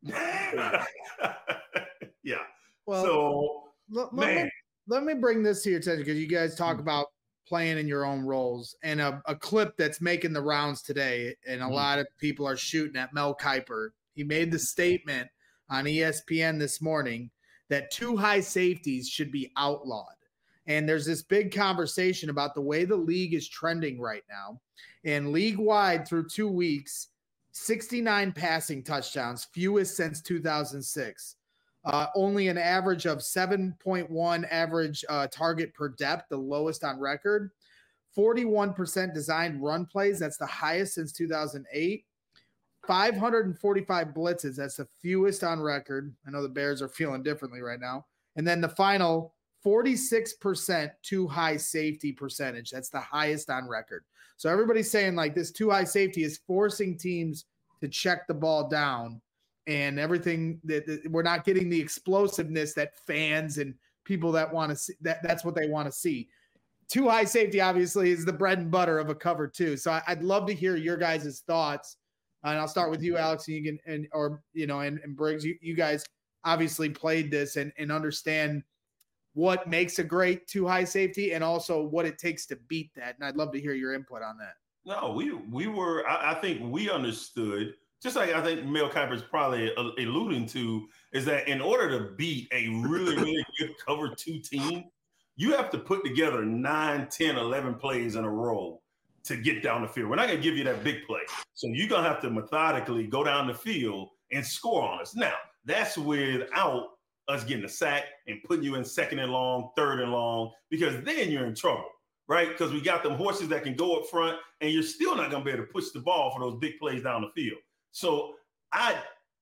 S1: Yeah.
S3: Well,
S1: so
S3: let,
S1: man,
S3: let me, let me bring this to your attention because you guys talk mm-hmm. about playing in your own roles, and a, a clip that's making the rounds today, and a mm-hmm. lot of people are shooting at Mel Kiper. He made the statement on E S P N this morning that two high safeties should be outlawed. And there's this big conversation about the way the league is trending right now. And league-wide through two weeks, sixty-nine passing touchdowns, fewest since two thousand six. Uh, only an average of seven point one average uh, target per depth, the lowest on record. forty-one percent designed run plays, that's the highest since two thousand eight. five hundred forty-five blitzes, that's the fewest on record. I know the Bears are feeling differently right now. And then the final, forty-six percent too high safety percentage. That's the highest on record. So everybody's saying like this too high safety is forcing teams to check the ball down and everything that, that we're not getting the explosiveness that fans and people that want to see that that's what they want to see. Too high safety obviously is the bread and butter of a cover two. So I, I'd love to hear your guys' thoughts. And I'll start with you, Alex, and you can, and or you know, and, and Briggs. You, you guys obviously played this and, and understand what makes a great too high safety, and also what it takes to beat that. And I'd love to hear your input on that.
S1: No, we we were. I, I think we understood. Just like I think Mel Kiper is probably alluding to, is that in order to beat a really really good cover two team, you have to put together nine, ten, eleven plays in a row to get down the field. We're not going to give you that big play. So you're going to have to methodically go down the field and score on us. Now, that's without us getting a sack and putting you in second and long, third and long, because then you're in trouble, right? Because we got them horses that can go up front, and you're still not going to be able to push the ball for those big plays down the field. So I,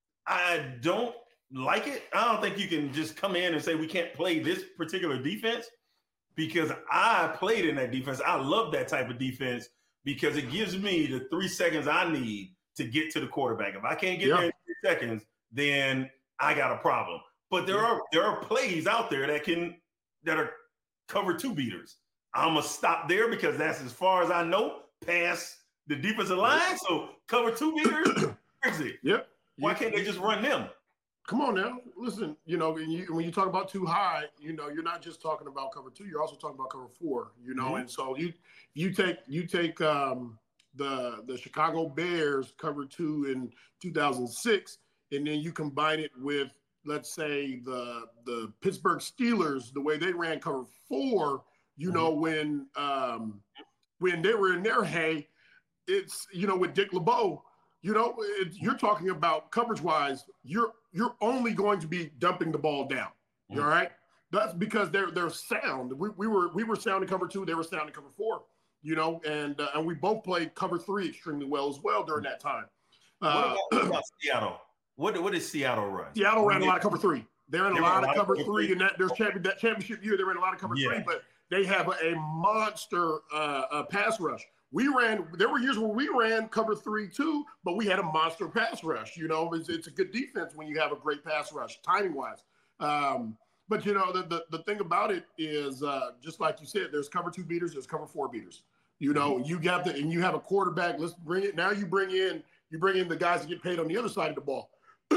S1: I don't like it. I don't think you can just come in and say we can't play this particular defense, because I played in that defense. I love that type of defense because it gives me the three seconds I need to get to the quarterback. If I can't get yep. there in three seconds, then I got a problem. But there are there are plays out there that can that are cover two beaters. I'm gonna stop there because that's as far as I know past the defensive line. So cover two beaters, crazy.
S2: Yep.
S1: Why can't they just run them?
S2: Come on now. Listen, you know, when you, when you talk about too high, you know, you're not just talking about cover two, you're also talking about cover four, you know, mm-hmm. and so you you take you take um, the the Chicago Bears cover two in two thousand six, and then you combine it with, let's say, the the Pittsburgh Steelers, the way they ran cover four, you mm-hmm. know, when um, when they were in their hay, it's, you know, with Dick LeBeau, you know, it, you're talking about coverage-wise, you're you're only going to be dumping the ball down. Mm-hmm. All right? That's because they're they're sound. We, we were we were sound in cover two, they were sound in cover four, you know, and uh, and we both played cover three extremely well as well during that time. Uh,
S1: what, about, what about Seattle? What what did Seattle run?
S2: Seattle ran a lot of cover three. They ran a lot of cover three, and that there's champion, that championship year they ran a lot of cover yeah. three, but they have a, a monster uh, uh, pass rush. We ran, there were years where we ran cover three too, but we had a monster pass rush. You know, it's, it's a good defense when you have a great pass rush, timing wise. Um, but, you know, the, the, the thing about it is, uh, just like you said, there's cover two beaters, there's cover four beaters. You know, you got the, and you have a quarterback. Let's bring it. Now you bring in, you bring in the guys that get paid on the other side of the ball.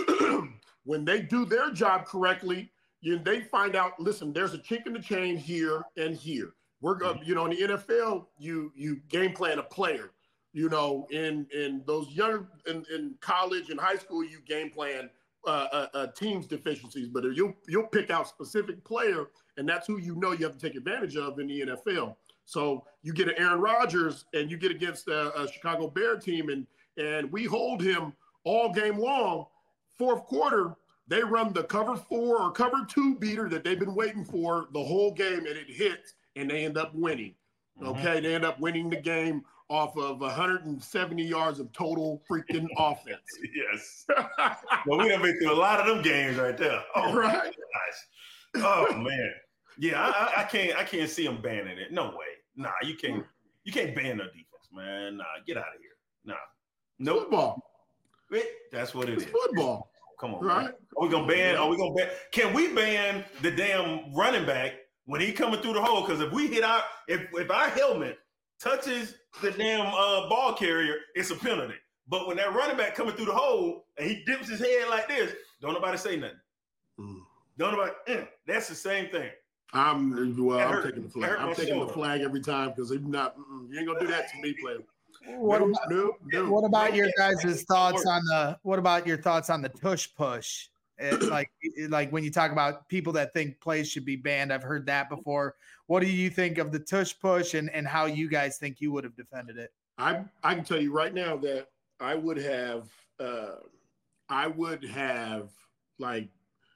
S2: When they do their job correctly, you, they find out, listen, there's a chink in the chain here and here. We're going, you know, in the N F L, you you game plan a player. You know, in in those young in, in college and high school, you game plan uh, uh, uh, team's deficiencies. But you'll you'll pick out specific player, and that's who you know you have to take advantage of in the N F L. So you get an Aaron Rodgers, and you get against a, a Chicago Bear team, and and we hold him all game long. Fourth quarter, they run the cover four or cover two beater that they've been waiting for the whole game, and it hits. And they end up winning. Okay, mm-hmm. They end up winning the game off of one hundred seventy yards of total freaking offense.
S1: Yes. Well, we have been through a lot of them games right there. Oh right. My gosh. Oh man. Yeah, I, I can't. I can't see them banning it. No way. Nah, you can't. You can't ban no defense, man. Nah, get out of here. Nah, nope.
S2: Football.
S1: That's what it
S2: it's
S1: is.
S2: Football.
S1: Come on,
S2: right?
S1: Man. Are we gonna ban? Are we gonna ban? Can we ban the damn running back when he coming through the hole? Because if we hit our, if if our helmet touches the damn uh, ball carrier, it's a penalty. But when that running back coming through the hole and he dips his head like this, don't nobody say nothing. Mm. Don't nobody. Mm, that's the same thing.
S2: I'm well. I'm taking the flag. I'm taking the flag every time because if not, you ain't gonna do that to me, player.
S3: What no, about, no, no. What about your guys' thoughts on the? What about your thoughts on the tush push? It, like, like when you talk about people that think plays should be banned, I've heard that before. What do you think of the tush push, and and how you guys think you would have defended it?
S2: I I can tell you right now that I would have, uh, I would have like,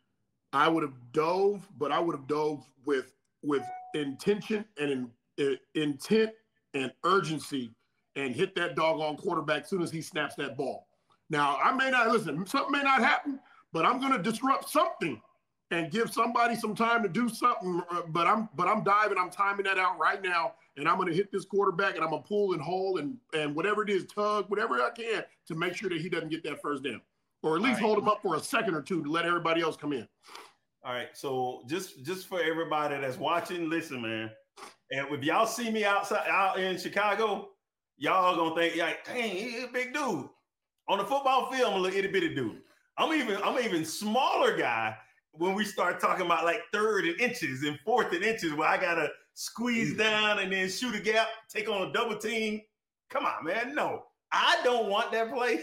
S2: I would have dove, but I would have dove with with intention and in, in, intent and urgency. And hit that doggone quarterback as soon as he snaps that ball. Now, I may not, listen, something may not happen, but I'm going to disrupt something and give somebody some time to do something. But I'm but I'm diving, I'm timing that out right now, and I'm going to hit this quarterback, and I'm going to pull and hold and, and whatever it is, tug, whatever I can to make sure that he doesn't get that first down. Or at least right. hold him up for a second or two to let everybody else come in.
S1: All right, so just, just for everybody that's watching, listen, man, and if y'all see me outside out in Chicago, y'all gonna think, like, dang, he's a big dude. On the football field, I'm a little itty bitty dude. I'm even, I'm an even smaller guy when we start talking about like third and inches and fourth and inches where I gotta squeeze down and then shoot a gap, take on a double team. Come on, man. No, I don't want that play,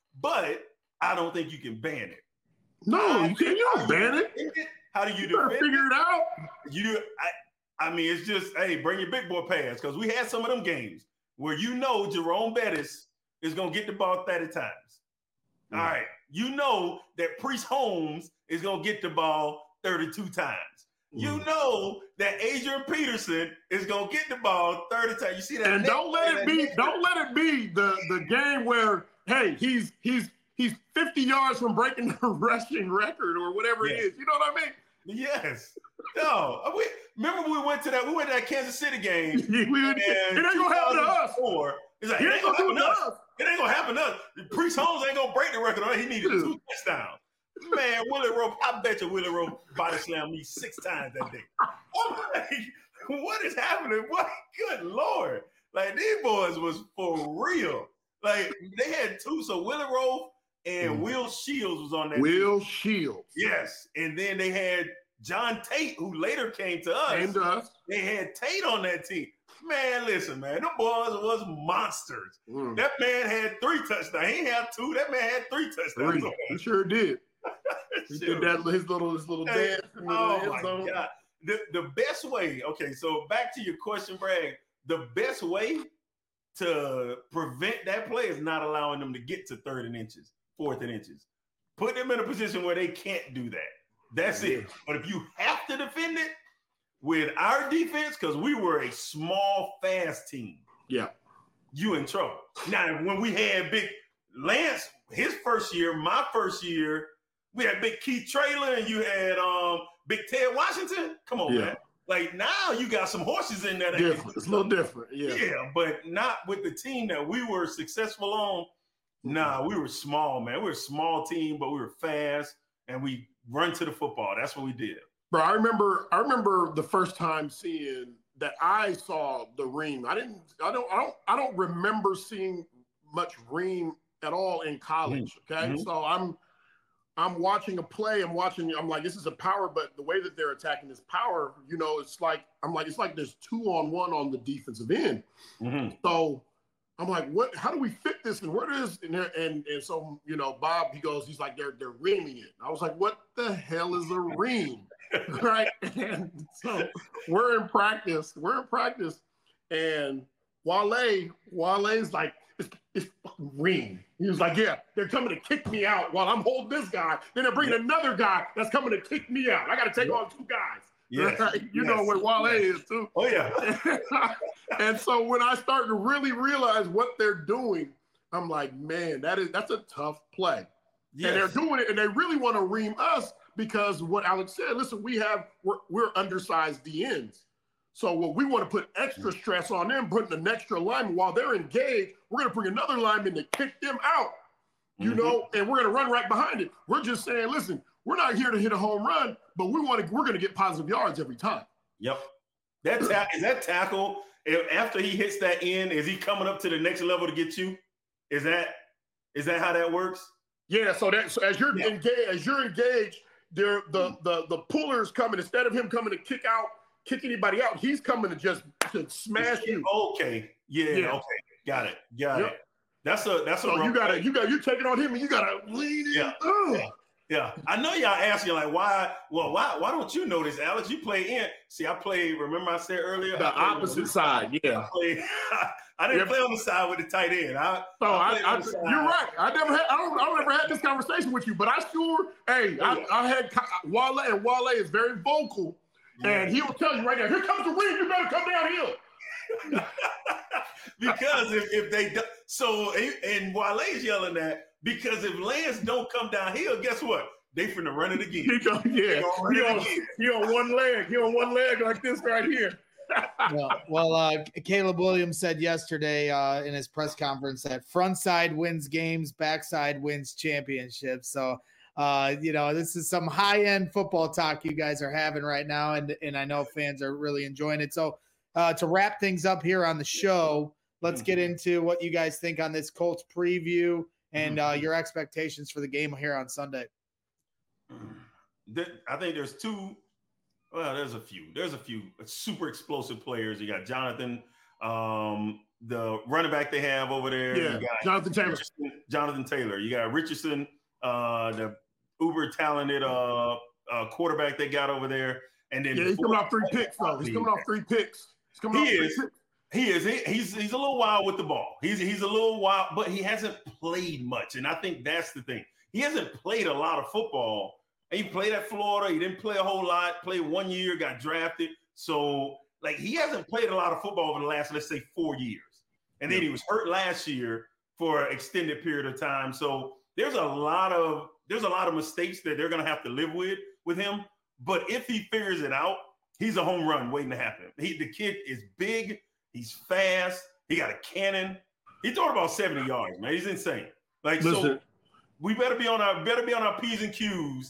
S1: but I don't think you can ban it.
S2: No, I, you can't. You don't ban it.
S1: it. How do you,
S2: you
S1: defend
S2: figure it out?
S1: You, I, I mean, it's just, hey, bring your big boy pass because we had some of them games where you know Jerome Bettis is going to get the ball thirty times. Mm. All right. You know that Priest Holmes is going to get the ball thirty-two times. Mm. You know that Adrian Peterson is going to get the ball thirty times. You see that?
S2: And don't let it be, don't let it be the, the game where, hey, he's he's he's fifty yards from breaking the rushing record or whatever yes. it is. You know what I mean?
S1: Yes. No. We, remember we went to that, we went to that Kansas City game.
S2: we, it ain't going to happen to us.
S1: It's like, it, it ain't going to happen to us. us. It ain't going to happen to us. Priest Holmes ain't going to break the record. He needed Dude. two touchdowns. Man, Willie Rowe, I bet you Willie Rowe body slammed me six times that day. I'm like, what is happening? What? Good Lord. Like, these boys was for real. Like, they had two. So Willie Rowe and mm. Will Shields was on that
S2: Will
S1: team.
S2: Shields.
S1: Yes. And then they had John Tate, who later came to us.
S2: Came to us.
S1: They had Tate on that team. Man, listen, man, them boys was monsters. Mm. That man had three touchdowns. He ain't had two. That man had three touchdowns.
S2: Three. He sure did. He sure. did that his little his little
S1: hey,
S2: dance.
S1: Oh my zone. God. The, the best way, okay, so back to your question, Bragg. The best way to prevent that play is not allowing them to get to third and inches, fourth and inches. Put them in a position where they can't do that. That's it. But if you have to defend it with our defense, because we were a small, fast team.
S2: Yeah.
S1: You in trouble. Now, when we had big Lance, his first year, my first year, we had big Keith Traylor and you had um big Ted Washington. Come on, yeah. man. Like now you got some horses in there. That
S2: different. It's a little different. Yeah.
S1: Yeah, but not with the team that we were successful on. Nah, we were small, man. We were a small team, but we were fast and we run to the football. That's what we did.
S2: Bro, I remember I remember the first time seeing that I saw the ream. I didn't I don't I don't I don't remember seeing much ream at all in college. Okay. Mm-hmm. So I'm I'm watching a play, I'm watching, I'm like, this is a power, but the way that they're attacking this power, you know, it's like I'm like, it's like there's two on one on the defensive end. Mm-hmm. So I'm like, what? How do we fit this? And where is and and and so you know, Bob, he goes, he's like, they're they're reaming it. I was like, what the hell is a ream, right? And so we're in practice, we're in practice, and Wale, Wale's like, it's it's fucking ream. He was like, yeah, they're coming to kick me out while I'm holding this guy. Then they're bringing yeah. another guy that's coming to kick me out. I got to take yeah. on two guys.
S1: Yes.
S2: Right? You yes. know what Wale
S1: yes.
S2: is too.
S1: Oh yeah.
S2: And so when I start to really realize what they're doing, I'm like, man, that is that's a tough play. Yes. And they're doing it, and they really want to ream us because what Alex said. Listen, we have we're, we're undersized D Ns, So what we want to put extra stress on them, putting an extra lineman while they're engaged. We're going to bring another lineman to kick them out, you mm-hmm. know, and we're going to run right behind it. We're just saying, listen, we're not here to hit a home run, but we want to. We're going to get positive yards every time.
S1: Yep. That ta- is that tackle if, after he hits that end, is he coming up to the next level to get you? Is that is that how that works?
S2: Yeah. So that so as you're
S1: yeah.
S2: engaged, as you're engaged, there the mm-hmm. the the puller's coming instead of him coming to kick out. Kick anybody out, he's coming to just to smash you.
S1: Okay, yeah, yeah. okay, got it, got yep. it. That's a that's a.
S2: So you gotta, you got, you taking on him, and you gotta lean in.
S1: Yeah. yeah, yeah. I know y'all asking like, why? Well, why? Why don't you know this, Alex? You play in. See, I play. Remember, I said earlier
S2: the opposite side. Yeah,
S1: I, played, I didn't yep. play on the side with the tight end. I,
S2: so I, I, I you're right. I never had. I don't. I don't ever had this conversation with you, but I sure. Hey, yeah. I, I had Wale, and Wale is very vocal. Yeah. And he'll tell you right now, here comes the wind, you better come downhill.
S1: Because if, if they do, so and Wale's yelling that because if Lance don't come downhill, guess what? They finna run it again.
S2: He go, yeah, he on, he on one leg, he on one leg like this right here.
S3: well, well uh, Caleb Williams said yesterday uh, in his press conference that front side wins games, backside wins championships. So. Uh, you know, this is some high-end football talk you guys are having right now, and and I know fans are really enjoying it. So uh, to wrap things up here on the show, let's get into what you guys think on this Colts preview and uh, your expectations for the game here on Sunday.
S1: I think there's two – well, there's a few. There's a few super explosive players. You got Jonathan, um, the running back they have over there.
S2: Yeah,
S1: you got
S2: Jonathan Taylor.
S1: Jonathan Taylor. You got Richardson, uh, the – uber talented uh, uh, quarterback they got over there, and then
S2: yeah, he's coming off three picks though. He's coming off three picks. He's coming
S1: he
S2: off
S1: is.
S2: three picks.
S1: He is. He, he's he's a little wild with the ball. He's he's a little wild, but he hasn't played much, and I think that's the thing. He hasn't played a lot of football. He played at Florida. He didn't play a whole lot. Played one year, got drafted. So like he hasn't played a lot of football over the last, let's say, four years. And then he was hurt last year for an extended period of time. So there's a lot of there's a lot of mistakes that they're going to have to live with with him. But if he figures it out, he's a home run waiting to happen. He, the kid is big. He's fast. He got a cannon. He threw about seventy yards, man. He's insane. Like, Listen, so we better be on our better be on our P's and Q's.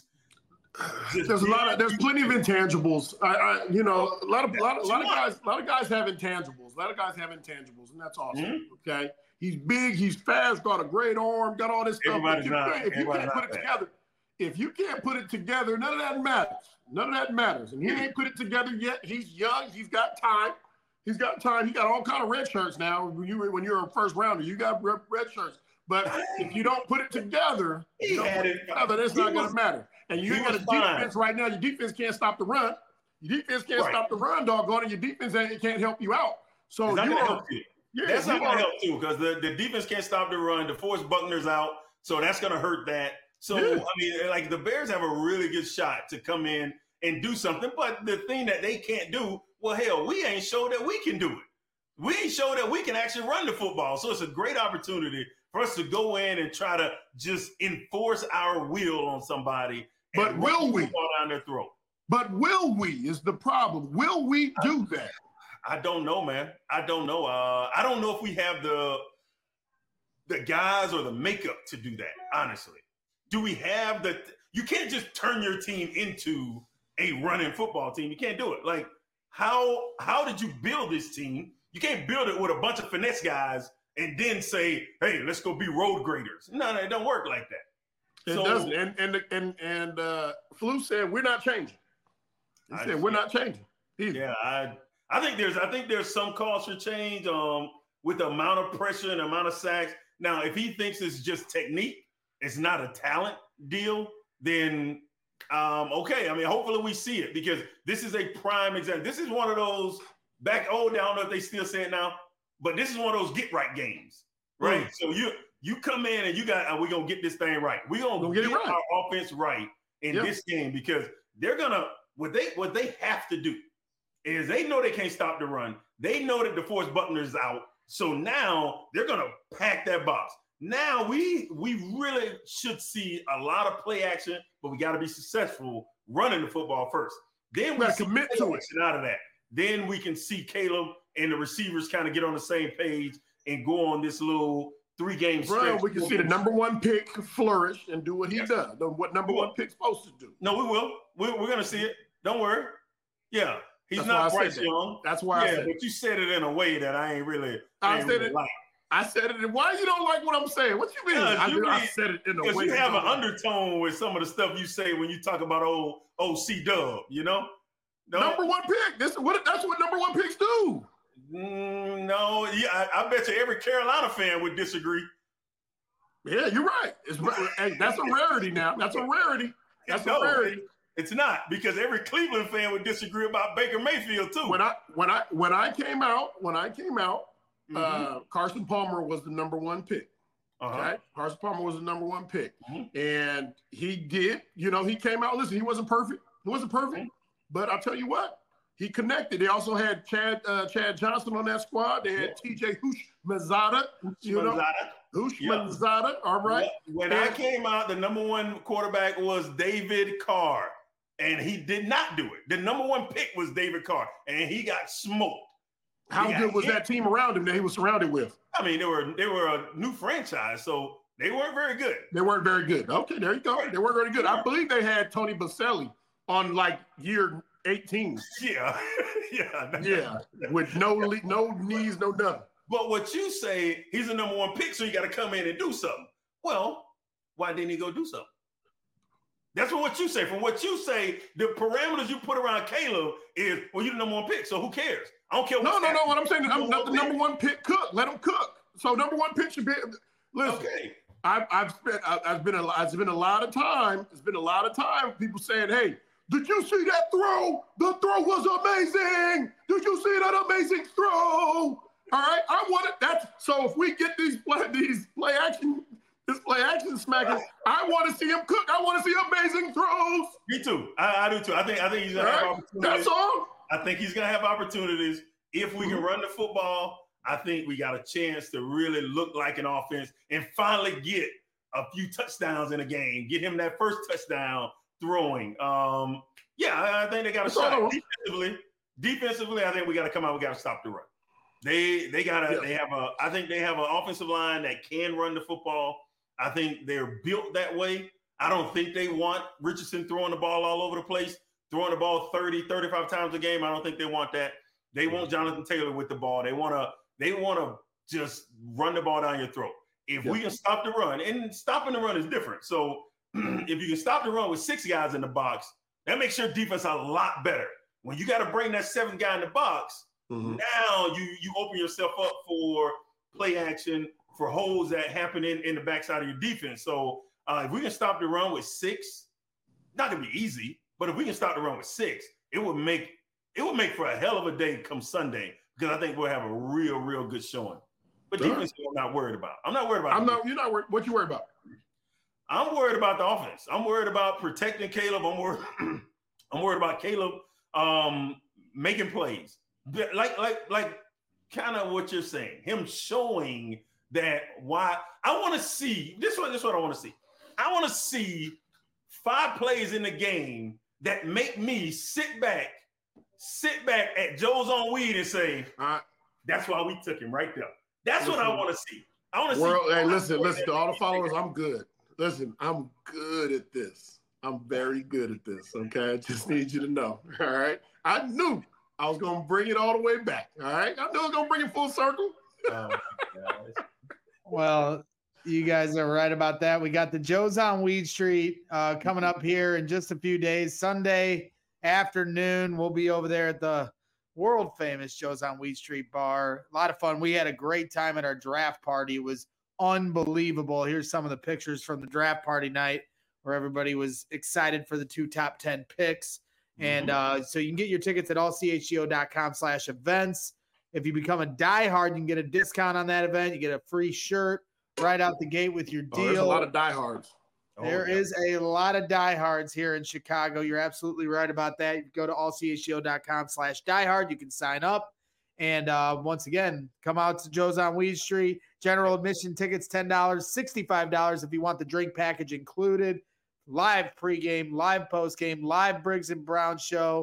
S2: Just there's a lot of there's plenty of intangibles. I, I you know, a lot of a lot, a lot of guys a lot of guys have intangibles. A lot of guys have intangibles, and that's awesome. Mm-hmm. Okay. He's big, he's fast, got a great arm, got all this stuff.
S1: Everybody's
S2: if you,
S1: not,
S2: if you can't put it
S1: that.
S2: together, if you can't put it together, none of that matters. None of that matters. And he ain't put it together yet. He's young. He's got time. He's got time. He got all kind of red shirts now. When you when you're a first rounder, you got red, red shirts. But if you don't put it together, you don't put it together, that's not going to matter. And you got a defense right now. Your defense can't stop the run. Your defense can't right. stop the run, doggone it. Your defense ain't, can't help you out. So
S1: you
S2: are.
S1: Help you. Yeah, that's not going to help too because the, the defense can't stop the run. DeForest Buckner's out, so that's going to hurt that. So, yeah. I mean, like the Bears have a really good shot to come in and do something. But the thing that they can't do, well, hell, we ain't showed that we can do it. We ain't showed that we can actually run the football. So it's a great opportunity for us to go in and try to just enforce our will on somebody.
S2: But will we?
S1: Down their throat.
S2: But will we is the problem. Will we do that?
S1: I don't know, man. I don't know. Uh, I don't know if we have the the guys or the makeup to do that, honestly. Do we have the – you can't just turn your team into a running football team. You can't do it. Like, how how did you build this team? You can't build it with a bunch of finesse guys and then say, hey, let's go be road graders. No, no, it don't work like that.
S2: It so, doesn't. And and and, and uh, Flu said, we're not changing. He I said, we're not changing. Either.
S1: Yeah, I – I think there's I think there's some cause for change um, with the amount of pressure and the amount of sacks. Now, if he thinks it's just technique, it's not a talent deal, then um, okay. I mean, hopefully we see it because this is a prime example. This is one of those back old. I don't know if they still say it now, but this is one of those get right games, right? Mm. So you you come in and you got uh, we're gonna get this thing right. We're gonna we'll get, get right. our offense right in yep. this game because they're gonna what they what they have to do. Is they know they can't stop the run. They know that DeForest Buckner is out. So now they're going to pack that box. Now we we really should see a lot of play action, but we got to be successful running the football first. Then we
S2: commit to it
S1: out of that. then we can see Caleb and the receivers kind of get on the same page and go on this little three-game stretch.
S2: Bro, we can see the number one pick flourish and do what he yes. does, what number one pick's supposed to do.
S1: No, we will. We're, we're going to see it. Don't worry. Yeah. He's That's not Bryce Young.
S2: That's why
S1: yeah,
S2: I said
S1: but you said it in a way that I ain't really
S2: I,
S1: I ain't
S2: said
S1: really
S2: it.
S1: like.
S2: I said it. Why you don't like what I'm saying? What you mean?
S1: Yeah,
S2: I,
S1: you
S2: I
S1: mean,
S2: said it in a way.
S1: Because you have an undertone with some of the stuff you say when you talk about old old C Dub, you know?
S2: No? Number one pick. This what that's what number one picks do.
S1: Mm, no, yeah, I, I bet you every Carolina fan would disagree.
S2: Yeah, you're right. It's hey, that's a rarity now. That's a rarity. That's no, a rarity.
S1: It's not, because every Cleveland fan would disagree about Baker Mayfield too.
S2: When I when I when I came out, when I came out, mm-hmm. uh, Carson Palmer was the number one pick. Uh-huh. Okay, Carson Palmer was the number one pick, mm-hmm. and he did. You know, he came out. Listen, he wasn't perfect. He wasn't perfect, mm-hmm. but I'll tell you what, he connected. They also had Chad uh, Chad Johnson on that squad. They had yeah. T J Houshmandzadeh. You know, Houshmandzadeh. Yeah. All right.
S1: When and, I came out, the number one quarterback was David Carr. And he did not do it. The number one pick was David Carr, and he got smoked.
S2: How good was hit. that team around him that he was surrounded with?
S1: I mean, they were they were a new franchise, so they weren't very good.
S2: They weren't very good. Okay, there you go. They weren't very good. I believe they had Tony Baselli on like year eighteen.
S1: Yeah, yeah,
S2: yeah, with no le- no knees, no nothing.
S1: But what you say, he's the number one pick, so you got to come in and do something. Well, why didn't he go do something? That's what you say. From what you say, the parameters you put around Caleb is, well, you're the number one pick, so who cares? I don't care.
S2: No, no, no. What I'm saying is, I'm not the number one pick. Cook. Let him cook. So number one pick should be. Listen,
S1: okay.
S2: I've I've spent I've been a it's been a lot of time. It's been a lot of time. People saying, "Hey, did you see that throw? The throw was amazing. Did you see that amazing throw?" All right, I want it. That's so. If we get these play these play action. This play action smackers. I want to see him cook. I want to see amazing throws.
S1: Me too. I, I do too. I think I think he's gonna have
S2: right.
S1: opportunities.
S2: That's all.
S1: I think he's gonna have opportunities. If we mm-hmm. can run the football, I think we got a chance to really look like an offense and finally get a few touchdowns in a game. Get him that first touchdown throwing. Um, yeah, I, I think they got a
S2: That's
S1: shot.
S2: all.
S1: Defensively, defensively, I think we got to come out. We got to stop the run. They they got to. Yeah. They have a. I think they have an offensive line that can run the football. I think they're built that way. I don't think they want Richardson throwing the ball all over the place, throwing the ball thirty, thirty-five times a game. I don't think they want that. They want Jonathan Taylor with the ball. They want to they want to just run the ball down your throat. If yeah. we can stop the run, and stopping the run is different. So if you can stop the run with six guys in the box, that makes your defense a lot better. When you got to bring that seventh guy in the box, mm-hmm. now you you open yourself up for play action, for holes that happen in, in the backside of your defense. So uh, if we can stop the run with six, not gonna be easy, but if we can stop the run with six, it would make it would make for a hell of a day come Sunday, because I think we'll have a real, real good showing. But sure. defense, I'm not worried about. I'm not worried about.
S2: I'm not. You're not worried. What you worried about?
S1: I'm worried about the offense. I'm worried about protecting Caleb. I'm worried. I'm worried about Caleb um, making plays, like like like kind of what you're saying. Him showing that why I want to see this one. This is what I want to see. I want to see five plays in the game that make me sit back, sit back at Joe's on weed and say,
S2: uh,
S1: "That's why we took him right there." That's listen, what I want to see. I want to see.
S2: Hey, listen, listen to all the followers. I'm good. Listen, I'm good at this. I'm very good at this. Okay, I just need you to know. All right, I knew I was gonna bring it all the way back. All right, I knew I was gonna bring it full circle.
S1: Oh,
S3: well, you guys are right about that. We got the Joe's on Weed Street uh, coming up here in just a few days. Sunday afternoon, we'll be over there at the world famous Joe's on Weed Street bar. A lot of fun. We had a great time at our draft party. It was unbelievable. Here's some of the pictures from the draft party night where everybody was excited for the two top ten picks. And uh, so you can get your tickets at all c h g o dot com slash events. If you become a diehard, you can get a discount on that event. You get a free shirt right out the gate with your deal. Oh, there's a
S2: lot of diehards.
S3: There oh, yeah. is a lot of diehards here in Chicago. You're absolutely right about that. You go to all c h g o dot com slash diehard. You can sign up. And uh, once again, come out to Joe's on Weed Street. General admission tickets, ten dollars, sixty-five dollars if you want the drink package included. Live pregame, live postgame, live Briggs and Brown show.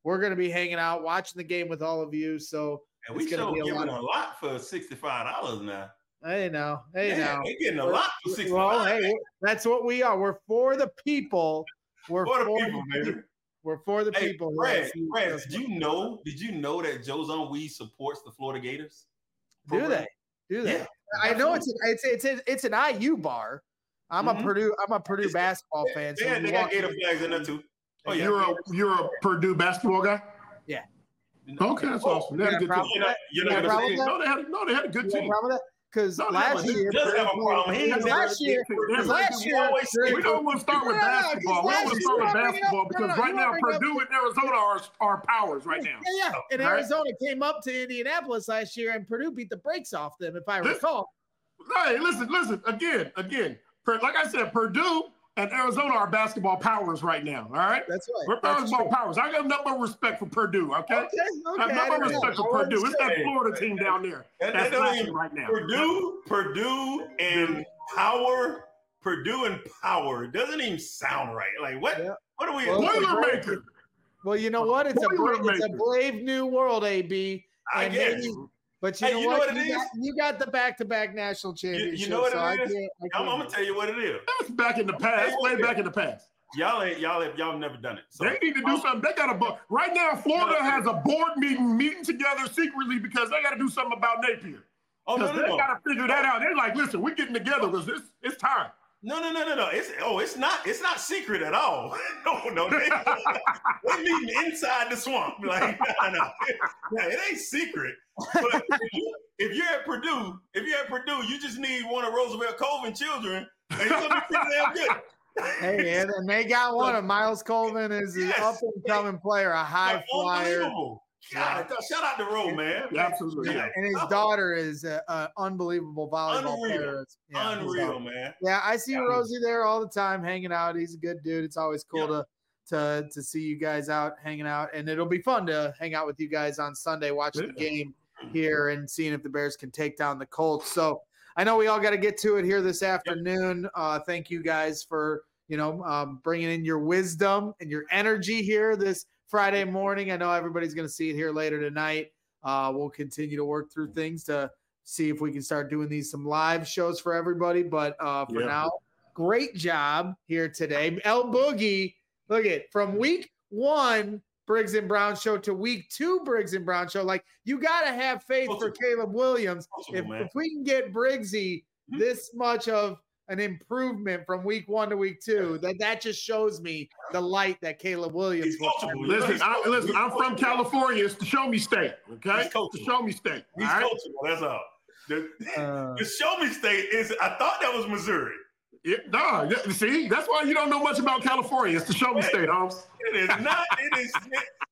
S3: we're going to be hanging out, watching the game with all of you. So
S1: and we still giving a lot. a lot for sixty-five dollars now.
S3: Hey, now, hey,
S1: Man,
S3: now,
S1: we're getting a we're, lot for sixty-five
S3: well,
S1: dollars.
S3: Hey, that's what we are. We're for the people. We're
S1: for,
S3: for
S1: the people,
S3: the,
S1: baby.
S3: We're for the
S1: hey,
S3: people.
S1: Brad, Brad, did you know? Did you know that Joe's Own Weed supports the Florida Gators?
S3: Do they? Do they?
S1: Yeah,
S3: I know it's an, it's it's it's, it's an I U bar. I'm mm-hmm. a Purdue. I'm a Purdue it's, basketball
S1: yeah,
S3: fan.
S1: So yeah, they got Gator flags in there too.
S2: Oh, yeah. You're a you're a Purdue basketball guy.
S3: Yeah.
S2: Okay, that's oh, awesome. They had a good team.
S1: You're not, you're not gonna say
S2: no. They had no. They had a good team.
S3: Because no, last
S1: no,
S3: year,
S1: does have a problem.
S3: Because last year, because last year,
S2: we, we don't want to start with no, basketball. We don't want to start with basketball because no, no, right now Purdue and Arizona are are powers right now.
S3: Yeah, yeah. And right? Arizona came up to Indianapolis last year, and Purdue beat the brakes off them, if I recall.
S2: Hey, listen, listen. Again, again. Like I said, Purdue and Arizona are basketball powers right now. All right,
S3: that's right.
S2: We're basketball powers. I got nothing but respect for Purdue. Okay, okay,
S3: okay.
S2: I have nothing but respect know. for Purdue. It's that Florida team down there.
S1: That,
S2: that's
S1: that even,
S2: right now.
S1: Purdue, Purdue, and power. Purdue and power doesn't even sound right. Like what? Yeah. What are we?
S2: Well, Boilermaker.
S3: Well, you know what? It's a brave, it's a brave new world, A B.
S1: I
S3: and
S1: guess.
S3: Maybe, But you,
S1: hey,
S3: know,
S1: you
S3: what?
S1: know what it
S3: you
S1: is?
S3: Got, you got the back-to-back national championship.
S1: You, you know what
S3: so
S1: it
S3: I
S1: is?
S3: can't, I can't
S1: I'm, I'm gonna tell you what it is.
S2: That's back in the past. Way back in the past.
S1: Y'all ain't y'all ain't, y'all never done it. So.
S2: They need to do something. They got a right now. Florida has a board meeting meeting together secretly because they got to do something about Napier.
S1: Oh no, no,
S2: they
S1: no.
S2: got to figure that out. They're like, listen, we're getting together because it's it's time.
S1: No, no, no, no, no. It's oh, it's not. It's not secret at all. no, no. They, they meeting inside the swamp. Like, no, no, no, it ain't secret. But if, you, if you're at Purdue, if you're at Purdue, you just need one of Roosevelt Colvin children, and you're gonna be pretty damn good.
S3: Hey, and, and they got one of Miles Colvin is an yes. up and coming player, a high flyer.
S1: Unbelievable. God, yeah. Shout out to Roe, man.
S2: Yeah, absolutely.
S3: Yeah. And his daughter is an unbelievable volleyball
S1: Unreal.
S3: player.
S1: Yeah, Unreal, man.
S3: Yeah, I see yeah. Rosie there all the time hanging out. He's a good dude. It's always cool yeah. to, to to see you guys out hanging out. And it'll be fun to hang out with you guys on Sunday, watching yeah. the game here and seeing if the Bears can take down the Colts. So I know we all got to get to it here this afternoon. Yep. Uh, thank you guys for, you know, um, bringing in your wisdom and your energy here this Friday morning. I know everybody's going to see it here later tonight. Uh, we'll continue to work through things to see if we can start doing these some live shows for everybody. But uh, for yeah. now, great job here today. El Boogie, look at from week one Briggs and Brown show to week two Briggs and Brown show. Like, you got to have faith Possible. for Caleb Williams. Possible, if, if we can get Briggsy mm-hmm. this much of an improvement from week one to week two, that that just shows me the light that Caleb Williams will have.
S2: Listen, I, listen, I'm from California. It's the Show Me State, okay? It's the Show Me State.
S1: He's
S2: all right?
S1: coachable, that's all. The,
S3: uh,
S1: the Show Me State is, I thought that was Missouri.
S2: It, no, see, that's why you don't know much about California. It's the Show Me State, Holmes.
S1: It is not. It is,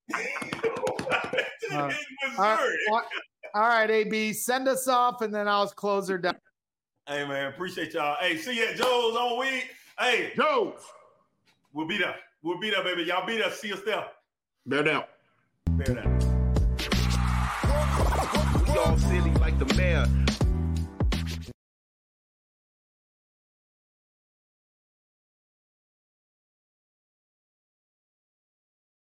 S1: it, it
S3: uh,
S1: is Missouri.
S3: All right, all right, A B, send us off, and then I'll close her down.
S1: Hey, man, appreciate y'all. Hey, see you at Joe's on week. Hey,
S2: Joe's.
S1: We'll be there. We'll be there, baby. Y'all be there. See us there.
S2: Bear down.
S1: Bear down.
S4: We all silly like the mayor.